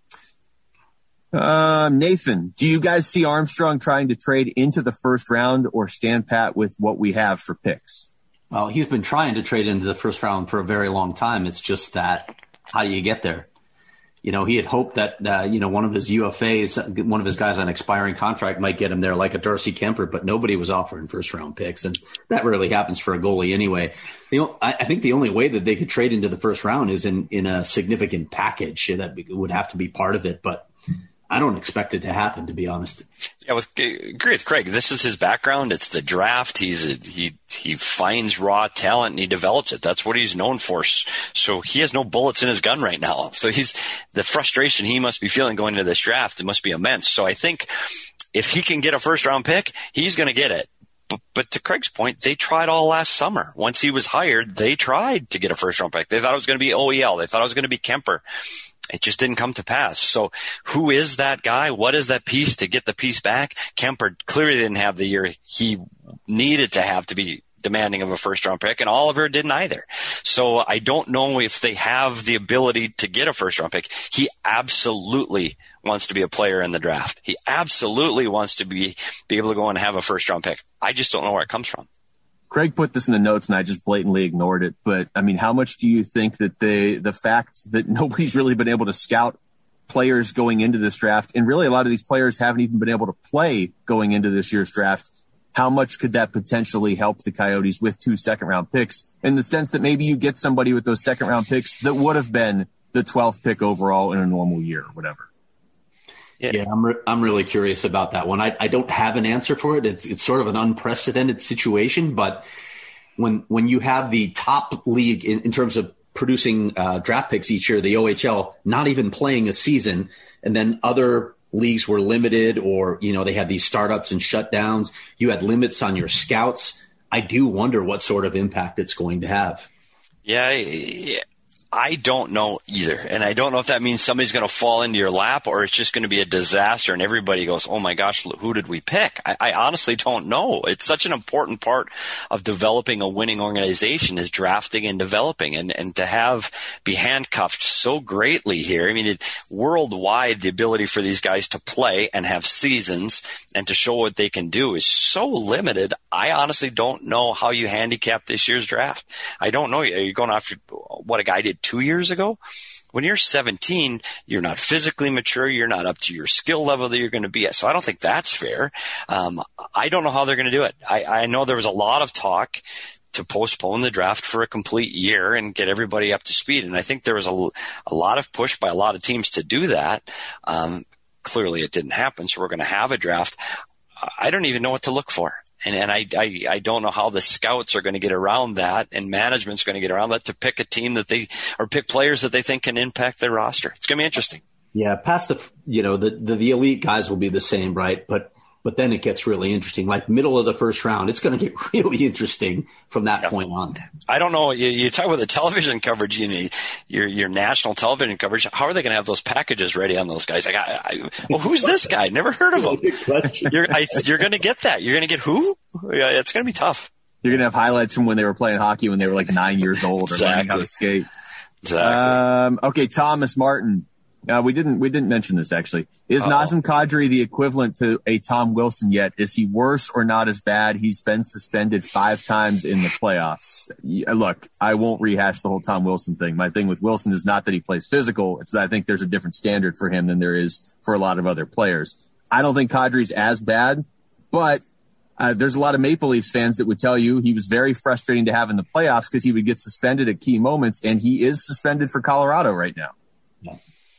Uh, Nathan, do you guys see Armstrong trying to trade into the first round or stand pat with what we have for picks? Well, he's been trying to trade into the first round for a very long time. It's just that, how do you get there? You know, he had hoped that, uh, you know, one of his U F As, one of his guys on expiring contract might get him there like a Darcy Kemper, but nobody was offering first round picks. And that rarely happens for a goalie anyway. You know, I, I think the only way that they could trade into the first round is in, in a significant package that would have to be part of it. But I don't expect it to happen, to be honest. Yeah, with, agree with Craig. This is his background. It's the draft. He's a, he he finds raw talent and he develops it. That's what he's known for. So he has no bullets in his gun right now. So he's the frustration he must be feeling going into this draft. It must be immense. So I think if he can get a first round pick, he's going to get it. But, but to Craig's point, they tried all last summer. Once he was hired, they tried to get a first round pick. They thought it was going to be O E L. They thought it was going to be Kemper. It just didn't come to pass. So who is that guy? What is that piece to get the piece back? Kemper clearly didn't have the year he needed to have to be demanding of a first round pick, and Oliver didn't either. So I don't know if they have the ability to get a first round pick. He absolutely wants to be a player in the draft. He absolutely wants to be, be able to go and have a first round pick. I just don't know where it comes from. Craig put this in the notes and I just blatantly ignored it. But I mean, how much do you think that they, the fact that nobody's really been able to scout players going into this draft, and really a lot of these players haven't even been able to play going into this year's draft, how much could that potentially help the Coyotes with two second round picks, in the sense that maybe you get somebody with those second round picks that would have been the twelfth pick overall in a normal year or whatever? Yeah, yeah I'm, re- I'm really curious about that one. I, I don't have an answer for it. It's, it's sort of an unprecedented situation, but when, when you have the top league in, in terms of producing uh, draft picks each year, the O H L, not even playing a season, and then other leagues were limited, or, you know, they had these startups and shutdowns. You had limits on your scouts. I do wonder what sort of impact it's going to have. Yeah, yeah. I don't know either. And I don't know if that means somebody's going to fall into your lap or it's just going to be a disaster and everybody goes, oh my gosh, who did we pick? I, I honestly don't know. It's such an important part of developing a winning organization is drafting and developing, and, and to have be handcuffed so greatly here. I mean, it, worldwide, the ability for these guys to play and have seasons and to show what they can do is so limited. I honestly don't know how you handicap this year's draft. I don't know. Are you going after what a guy did two years ago? When you're seventeen, you're not physically mature. You're not up to your skill level that you're going to be at. So I don't think that's fair. Um, I don't know how they're going to do it. I, I know there was a lot of talk to postpone the draft for a complete year and get everybody up to speed. And I think there was a, a lot of push by a lot of teams to do that. Um, clearly it didn't happen. So we're going to have a draft. I don't even know what to look for. And, and I, I, I don't know how the scouts are going to get around that, and management's going to get around that to pick a team that they, or pick players that they think can impact their roster. It's going to be interesting. Yeah. Past the, you know, the, the, the elite guys will be the same, right? But, but then it gets really interesting, like middle of the first round. It's going to get really interesting from that yeah. point on. I don't know. You, you talk about the television coverage, you need your, your national television coverage. How are they going to have those packages ready on those guys? Like, I, I, well, who's this guy? Never heard of him. You're, I, you're going to get that. You're going to get who? Yeah, it's going to be tough. You're going to have highlights from when they were playing hockey when they were like nine years old or exactly. learning how to skate. Exactly. Um, okay. Thomas Martin. Uh, we didn't, we didn't mention this actually. Is Uh-oh. Nazem Kadri the equivalent to a Tom Wilson yet? Is he worse or not as bad? He's been suspended five times in the playoffs. Yeah, look, I won't rehash the whole Tom Wilson thing. My thing with Wilson is not that he plays physical. It's that I think there's a different standard for him than there is for a lot of other players. I don't think Kadri's as bad, but uh, there's a lot of Maple Leafs fans that would tell you he was very frustrating to have in the playoffs because he would get suspended at key moments, and he is suspended for Colorado right now. Yeah.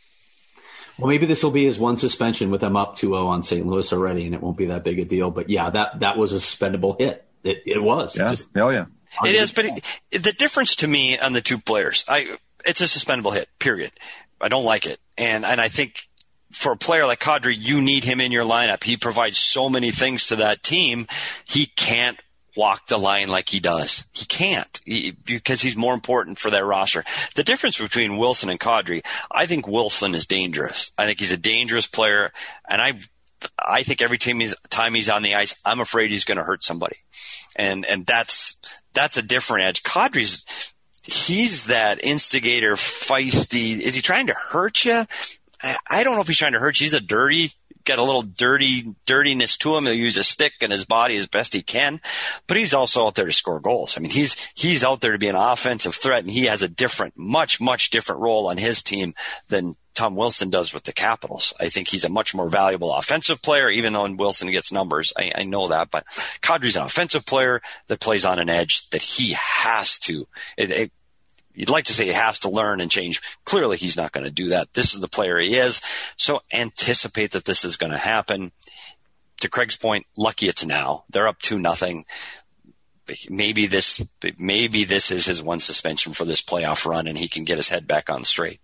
Well, maybe this will be his one suspension with them up two oh on Saint Louis already, and it won't be that big a deal. But, yeah, that, that was a suspendable hit. It, it was. Yeah. It just, oh, yeah. It is, but it, the difference to me on the two players, I it's a suspendable hit, period. I don't like it. And and I think for a player like Kadri, you need him in your lineup. He provides so many things to that team. He can't walk the line like he does. He can't he, because he's more important for that roster. The difference between Wilson and Kadri, I think Wilson is dangerous. I think he's a dangerous player, and I I think every time he's, time he's on the ice, I'm afraid he's going to hurt somebody. And and that's that's a different edge. Kadri's he's that instigator, feisty. Is he trying to hurt you? I, I don't know if he's trying to hurt you. He's a dirty, got a little dirty, dirtiness to him. He'll use a stick and his body as best he can, but he's also out there to score goals. I mean, he's, he's out there to be an offensive threat, and he has a different, much, much different role on his team than Tom Wilson does with the Capitals. I think he's a much more valuable offensive player, even though Wilson gets numbers. I, I know that, but Kadri's an offensive player that plays on an edge that he has to, it, it, you'd like to say he has to learn and change. Clearly, he's not going to do that. This is the player he is. So anticipate that this is going to happen. To Craig's point, lucky it's now. They're up two nothing. Maybe this, maybe this is his one suspension for this playoff run, and he can get his head back on straight.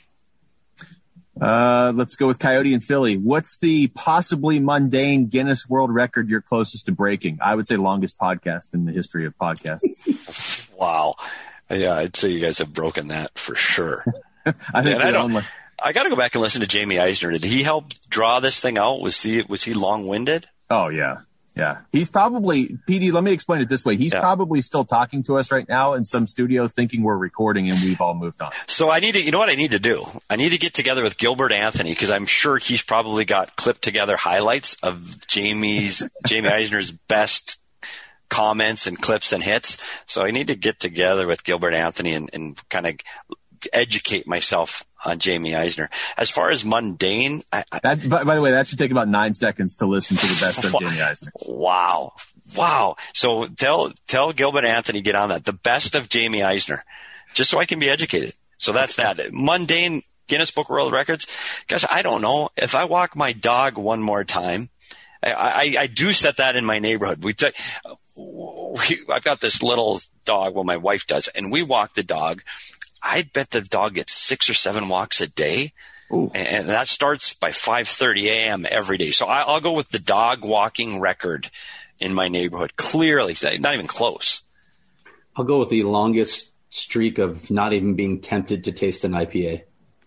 Uh, let's go with Coyote and Philly. What's the possibly mundane Guinness World Record you're closest to breaking? I would say longest podcast in the history of podcasts. Wow. Yeah, I'd say you guys have broken that for sure. I think I, don't, only... I got to go back and listen to Jamie Eisner. Did he help draw this thing out? Was he was he long-winded? Oh, yeah. Yeah. He's probably, P D, let me explain it this way. He's yeah. probably still talking to us right now in some studio thinking we're recording and we've all moved on. So I need to, you know what I need to do? I need to get together with Gilbert Anthony, because I'm sure he's probably got clipped together highlights of Jamie's, Jamie Eisner's best comments and clips and hits. So I need to get together with Gilbert Anthony and, and kind of educate myself on Jamie Eisner. As far as mundane, I, I, that, by, by the way, that should take about nine seconds to listen to the best of Jamie Eisner. Wow. Wow. So tell, tell Gilbert Anthony, get on that. The best of Jamie Eisner, just so I can be educated. So that's that. Mundane Guinness Book of World Records. Gosh, I don't know. If I walk my dog one more time, I, I, I do set that in my neighborhood. We, t- we I've got this little dog, well, my wife does, and we walk the dog. I bet the dog gets six or seven walks a day. Ooh. And that starts by five thirty a.m. every day. So I'll go with the dog walking record in my neighborhood. Clearly, not even close. I'll go with the longest streak of not even being tempted to taste an I P A.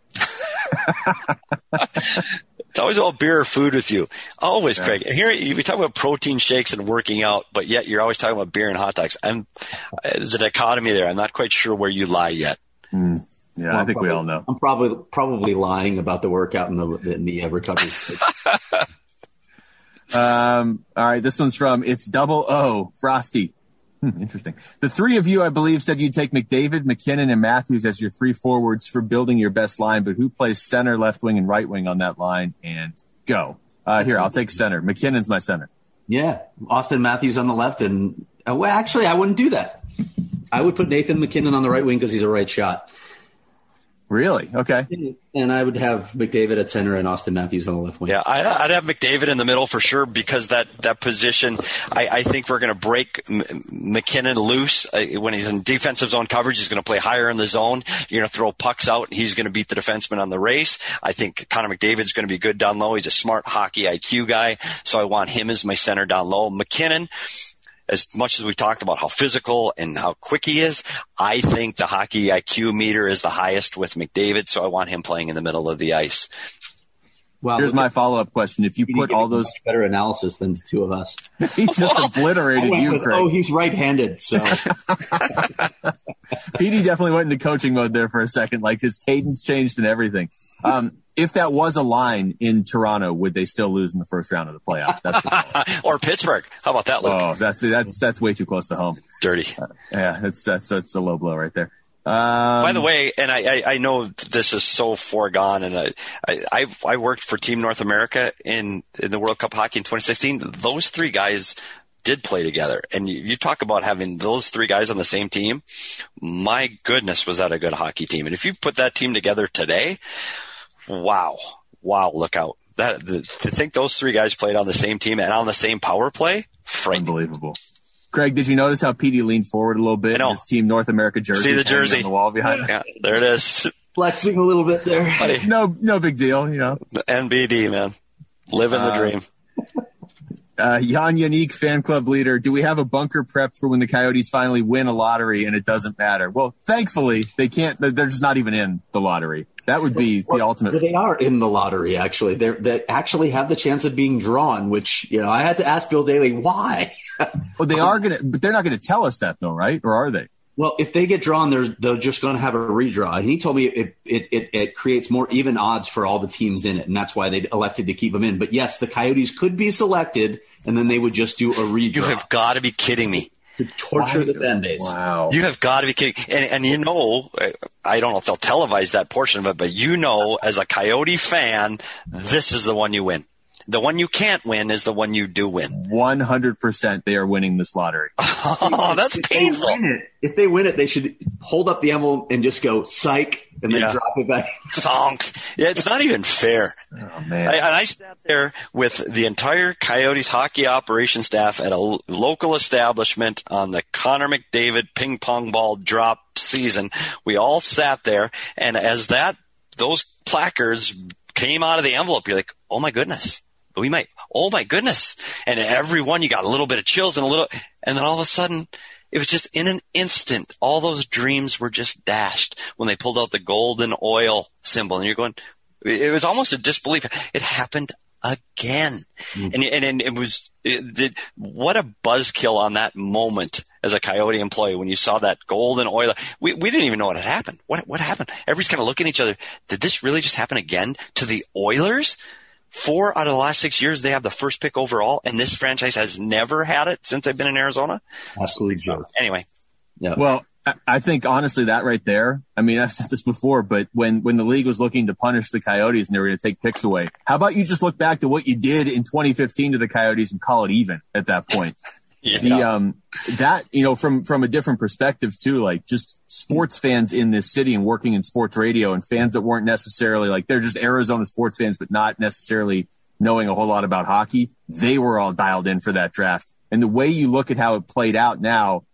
It's always all beer or food with you. Always, yeah. Craig. Here you talk about protein shakes and working out, but yet you're always talking about beer and hot dogs. I'm, there's a dichotomy there. I'm not quite sure where you lie yet. Mm. Yeah, well, I think probably, we all know. I'm probably probably lying about the workout and the, in the uh, recovery. um, all right, this one's from It's Double O, Frosty. Hmm, interesting. The three of you, I believe, said you'd take McDavid, McKinnon, and Matthews as your three forwards for building your best line, but who plays center, left wing, and right wing on that line? And go. Uh, here, I'll take center. McKinnon's my center. Yeah, Austin Matthews on the left, and uh, well, actually, I wouldn't do that. I would put Nathan McKinnon on the right wing because he's a right shot. Really? Okay. And I would have McDavid at center and Austin Matthews on the left wing. Yeah, I'd, I'd have McDavid in the middle for sure, because that, that position, I, I think we're going to break M- McKinnon loose. Uh, when he's in defensive zone coverage, he's going to play higher in the zone. You're going to throw pucks out, and he's going to beat the defenseman on the race. I think Connor McDavid's going to be good down low. He's a smart hockey I Q guy, so I want him as my center down low. McKinnon, as much as we talked about how physical and how quick he is, I think the hockey I Q meter is the highest with McDavid, so I want him playing in the middle of the ice. Well, here's my follow-up question. If you put all those – better analysis than the two of us. He just well, obliterated you, with, Craig. Oh, he's right-handed, so – P D definitely went into coaching mode there for a second. Like, his cadence changed and everything. Um, if that was a line in Toronto, would they still lose in the first round of the playoffs? That's or Pittsburgh. How about that, Luke? Oh, that's that's that's way too close to home. Dirty. Uh, yeah, that's that's that's a low blow right there. Um, By the way, and I, I, I know this is so foregone, and I, I I worked for Team North America in in the World Cup hockey in twenty sixteen. Those three guys did play together, and you, you talk about having those three guys on the same team. My goodness, was that a good hockey team? And if you put that team together today, wow, wow, look out! That the, to think those three guys played on the same team and on the same power play, frightening. Unbelievable. Craig, did you notice how P D leaned forward a little bit? His Team North America jersey. See the jersey on the wall behind. Yeah, there it is. Flexing a little bit there. Buddy. No, no big deal. You know, the N B D, man, living the uh, dream. Uh, Jan Yannick, fan club leader. Do we have a bunker prep for when the Coyotes finally win a lottery and it doesn't matter? Well, thankfully they can't. They're just not even in the lottery. That would be the well, ultimate. They are in the lottery, actually. They're, they actually have the chance of being drawn, which, you know, I had to ask Bill Daly why. Well, they are going to, but they're not going to tell us that though, right? Or are they? Well, if they get drawn, they're they're just going to have a redraw. And he told me it, it it it creates more even odds for all the teams in it, and that's why they elected to keep them in. But yes, the Coyotes could be selected, and then they would just do a redraw. You have got to be kidding me. To torture Why? the fan base. Wow. You have got to be kidding. And, and you know, I don't know if they'll televise that portion of it, but you know, as a Coyote fan, this is the one you win. The one you can't win is the one you do win. one hundred percent they are winning this lottery. Oh, that's if painful. They win it, if they win it, they should hold up the envelope and just go, psych, and then yeah. drop it back. Sonk. Yeah, it's not even fair. Oh, man. I, and I sat there with the entire Coyotes hockey operation staff at a l- local establishment on the Connor McDavid ping pong ball drop season. We all sat there, and as that those placards came out of the envelope, you're like, oh, my goodness. We might, oh my goodness. And everyone, you got a little bit of chills and a little, and then all of a sudden, it was just in an instant, all those dreams were just dashed when they pulled out the golden oil symbol. And you're going, it was almost a disbelief. It happened again. Mm-hmm. And, and, and it was, it, it, what a buzzkill on that moment as a Coyote employee when you saw that golden oil. We, we didn't even know what had happened. What, what happened? Everybody's kind of looking at each other. Did this really just happen again to the Oilers? Four out of the last six years, they have the first pick overall, and this franchise has never had it since they've been in Arizona. Absolutely true. Anyway. Yeah. Well, I think, honestly, that right there, I mean, I've said this before, but when, when the league was looking to punish the Coyotes and they were going to take picks away, how about you just look back to what you did in twenty fifteen to the Coyotes and call it even at that point? Yeah. The, um, that, you know, from, from a different perspective too, like just sports fans in this city and working in sports radio and fans that weren't necessarily like, they're just Arizona sports fans, but not necessarily knowing a whole lot about hockey. They were all dialed in for that draft. And the way you look at how it played out now,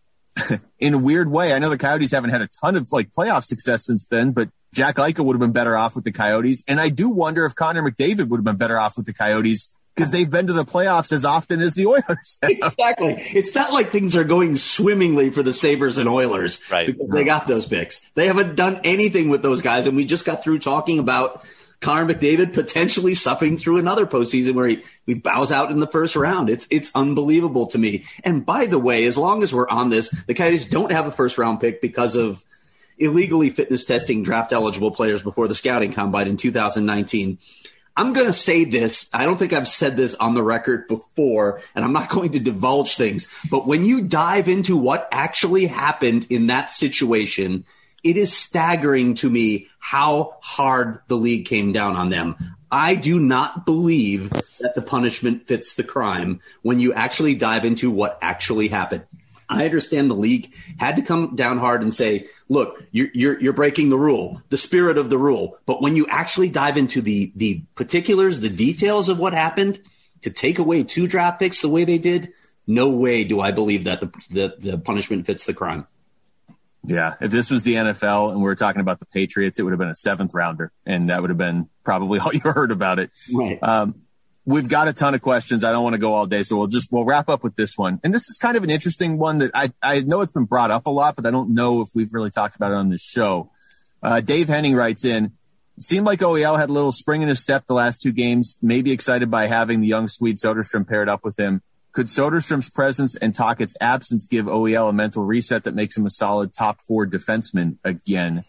in a weird way, I know the Coyotes haven't had a ton of like playoff success since then, but Jack Eichel would have been better off with the Coyotes. And I do wonder if Connor McDavid would have been better off with the Coyotes, because they've been to the playoffs as often as the Oilers. Exactly. It's not like things are going swimmingly for the Sabres and Oilers, right? Because they got those picks. They haven't done anything with those guys, and we just got through talking about Connor McDavid potentially suffering through another postseason where he, he bows out in the first round. It's it's unbelievable to me. And by the way, as long as we're on this, the Coyotes don't have a first-round pick because of illegally fitness testing draft-eligible players before the scouting combine in two thousand nineteen. I'm going to say this. I don't think I've said this on the record before, and I'm not going to divulge things. But when you dive into what actually happened in that situation, it is staggering to me how hard the league came down on them. I do not believe that the punishment fits the crime when you actually dive into what actually happened. I understand the league had to come down hard and say, look, you're, you're, you're breaking the rule, the spirit of the rule. But when you actually dive into the, the particulars, the details of what happened, to take away two draft picks the way they did, no way do I believe that the, the, the punishment fits the crime. Yeah, if this was the N F L and we were talking about the Patriots, it would have been a seventh rounder, and that would have been probably all you heard about it. Right. Um, We've got a ton of questions. I don't want to go all day, so we'll just, we'll wrap up with this one. And this is kind of an interesting one that I, I know it's been brought up a lot, but I don't know if we've really talked about it on this show. Uh, Dave Henning writes in, seemed like O E L had a little spring in his step the last two games, maybe excited by having the young Swede Soderstrom paired up with him. Could Soderstrom's presence and Tocchet's absence give O E L a mental reset that makes him a solid top four defenseman again?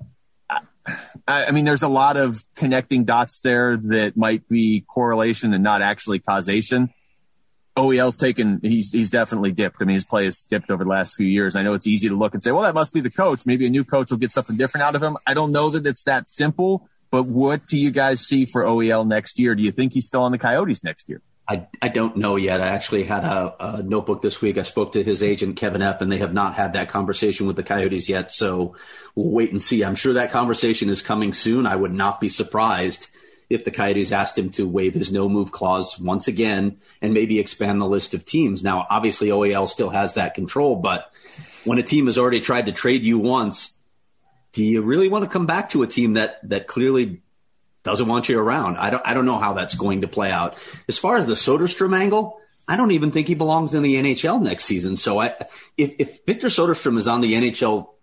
I mean, there's a lot of connecting dots there that might be correlation and not actually causation. O E L's taken, he's, he's definitely dipped. I mean, his play has dipped over the last few years. I know it's easy to look and say, well, that must be the coach. Maybe a new coach will get something different out of him. I don't know that it's that simple, but what do you guys see for O E L next year? Do you think he's still on the Coyotes next year? I, I don't know yet. I actually had a, a notebook this week. I spoke to his agent, Kevin Epp, and they have not had that conversation with the Coyotes yet. So we'll wait and see. I'm sure that conversation is coming soon. I would not be surprised if the Coyotes asked him to waive his no-move clause once again and maybe expand the list of teams. Now, obviously, O E L still has that control, but when a team has already tried to trade you once, do you really want to come back to a team that that clearly doesn't want you around? I don't I don't know how that's going to play out. As far as the Soderstrom angle, I don't even think he belongs in the N H L next season. So I, if, if Victor Soderstrom is on the N H L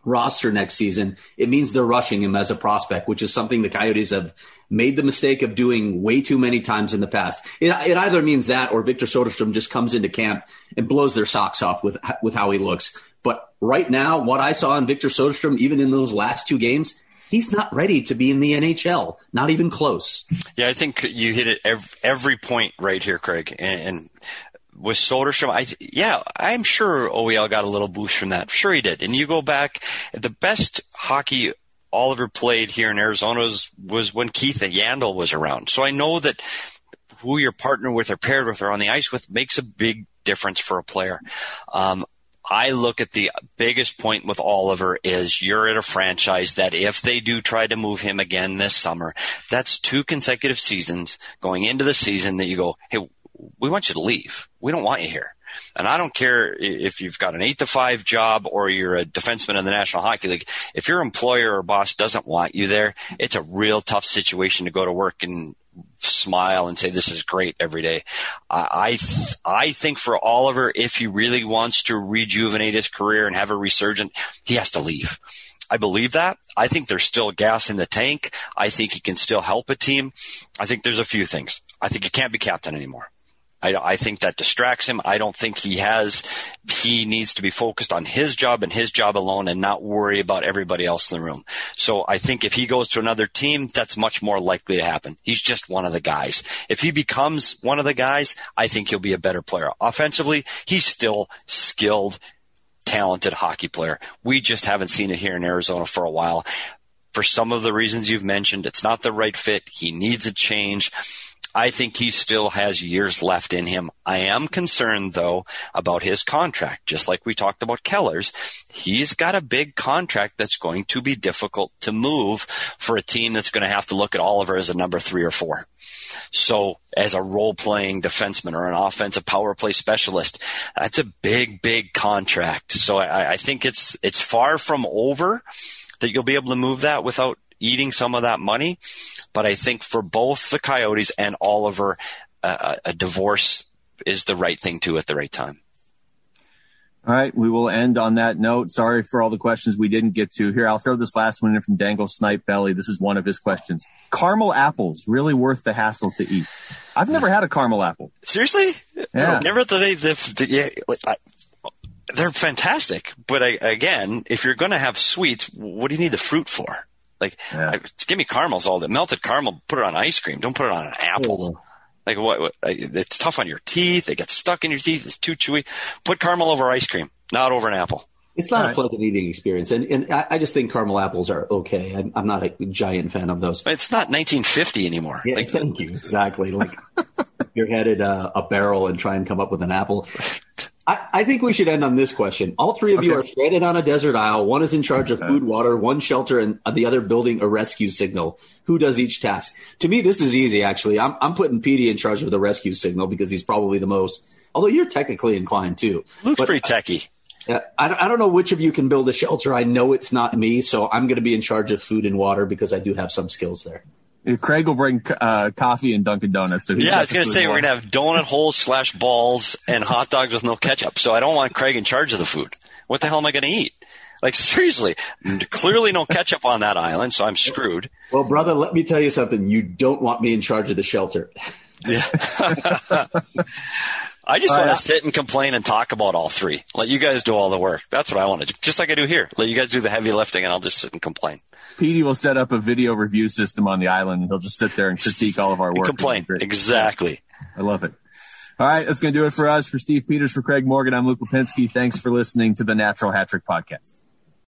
roster next season, it means they're rushing him as a prospect, which is something the Coyotes have made the mistake of doing way too many times in the past. It, it either means that or Victor Soderstrom just comes into camp and blows their socks off with with how he looks. But right now, what I saw in Victor Soderstrom, even in those last two games, he's not ready to be in the N H L, not even close. Yeah, I think you hit it every, every point right here, Craig. And, and with Soderstrom, I, yeah, I'm sure O E L got a little boost from that. Sure he did. And you go back, the best hockey Oliver played here in Arizona was, was when Keith Yandel was around. So I know that who you're partnered with or paired with or on the ice with makes a big difference for a player. Um, I look at the biggest point with Oliver is you're at a franchise that if they do try to move him again this summer, that's two consecutive seasons going into the season that you go, hey, we want you to leave. We don't want you here. And I don't care if you've got an eight to five job or you're a defenseman in the National Hockey League. If your employer or boss doesn't want you there, it's a real tough situation to go to work and smile and say, this is great every day. I, I, th- I think for Oliver, if he really wants to rejuvenate his career and have a resurgence, he has to leave. I believe that. I think there's still gas in the tank. I think he can still help a team. I think there's a few things. I think he can't be captain anymore. I, I think that distracts him. I don't think he has, he needs to be focused on his job and his job alone and not worry about everybody else in the room. So I think if he goes to another team, that's much more likely to happen. He's just one of the guys. If he becomes one of the guys, I think he'll be a better player. Offensively, he's still skilled, talented hockey player. We just haven't seen it here in Arizona for a while. For some of the reasons you've mentioned, it's not the right fit. He needs a change. I think he still has years left in him. I am concerned, though, about his contract. Just like we talked about Keller's, he's got a big contract that's going to be difficult to move for a team that's going to have to look at Oliver as a number three or four. So as a role-playing defenseman or an offensive power play specialist, that's a big, big contract. So I, I think it's it's far from over that you'll be able to move that without eating some of that money. But I think for both the Coyotes and Oliver, uh, a divorce is the right thing to at the right time. All right, we will end on that note. Sorry for all the questions we didn't get to. Here, I'll throw this last one in from Dangle Snipe Belly. This is one of his questions. Caramel apples, really worth the hassle to eat? I've never had a caramel apple. Seriously? Yeah. Never they, they, they, yeah, like, I, they're fantastic. But I, again, if you're going to have sweets, what do you need the fruit for? Like, yeah. I, give me caramels all day. Melted caramel, put it on ice cream. Don't put it on an apple. Oh. Like, what, what? It's tough on your teeth. They get stuck in your teeth. It's too chewy. Put caramel over ice cream, not over an apple. It's not all a right. pleasant eating experience. And, and I, I just think caramel apples are okay. I'm, I'm not a giant fan of those. It's not nineteen fifty anymore. Yeah, like, thank you. Exactly. Like, you're headed uh, a barrel and try and come up with an apple. I, I think we should end on this question. All three of okay. you are stranded on a desert isle. One is in charge of food, water, one shelter, and the other building a rescue signal. Who does each task? To me, this is easy, actually. I'm, I'm putting Petey in charge of the rescue signal because he's probably the most, although you're technically inclined too. Luke's but, pretty techie. Uh, I, I don't know which of you can build a shelter. I know it's not me, so I'm going to be in charge of food and water because I do have some skills there. Craig will bring uh, coffee and Dunkin' Donuts. So yeah, I was going to say we're going to have donut holes slash balls and hot dogs with no ketchup. So I don't want Craig in charge of the food. What the hell am I going to eat? Like, seriously, clearly no ketchup on that island, so I'm screwed. Well, brother, let me tell you something. You don't want me in charge of the shelter. Yeah. I just uh, want to sit and complain and talk about all three. Let you guys do all the work. That's what I want to do. Just like I do here. Let you guys do the heavy lifting, and I'll just sit and complain. Petey will set up a video review system on the island, and he'll just sit there and critique all of our work. Complain. Exactly. I love it. All right, that's going to do it for us. For Steve Peters, for Craig Morgan, I'm Luke Lipinski. Thanks for listening to the Natural Hat Trick Podcast.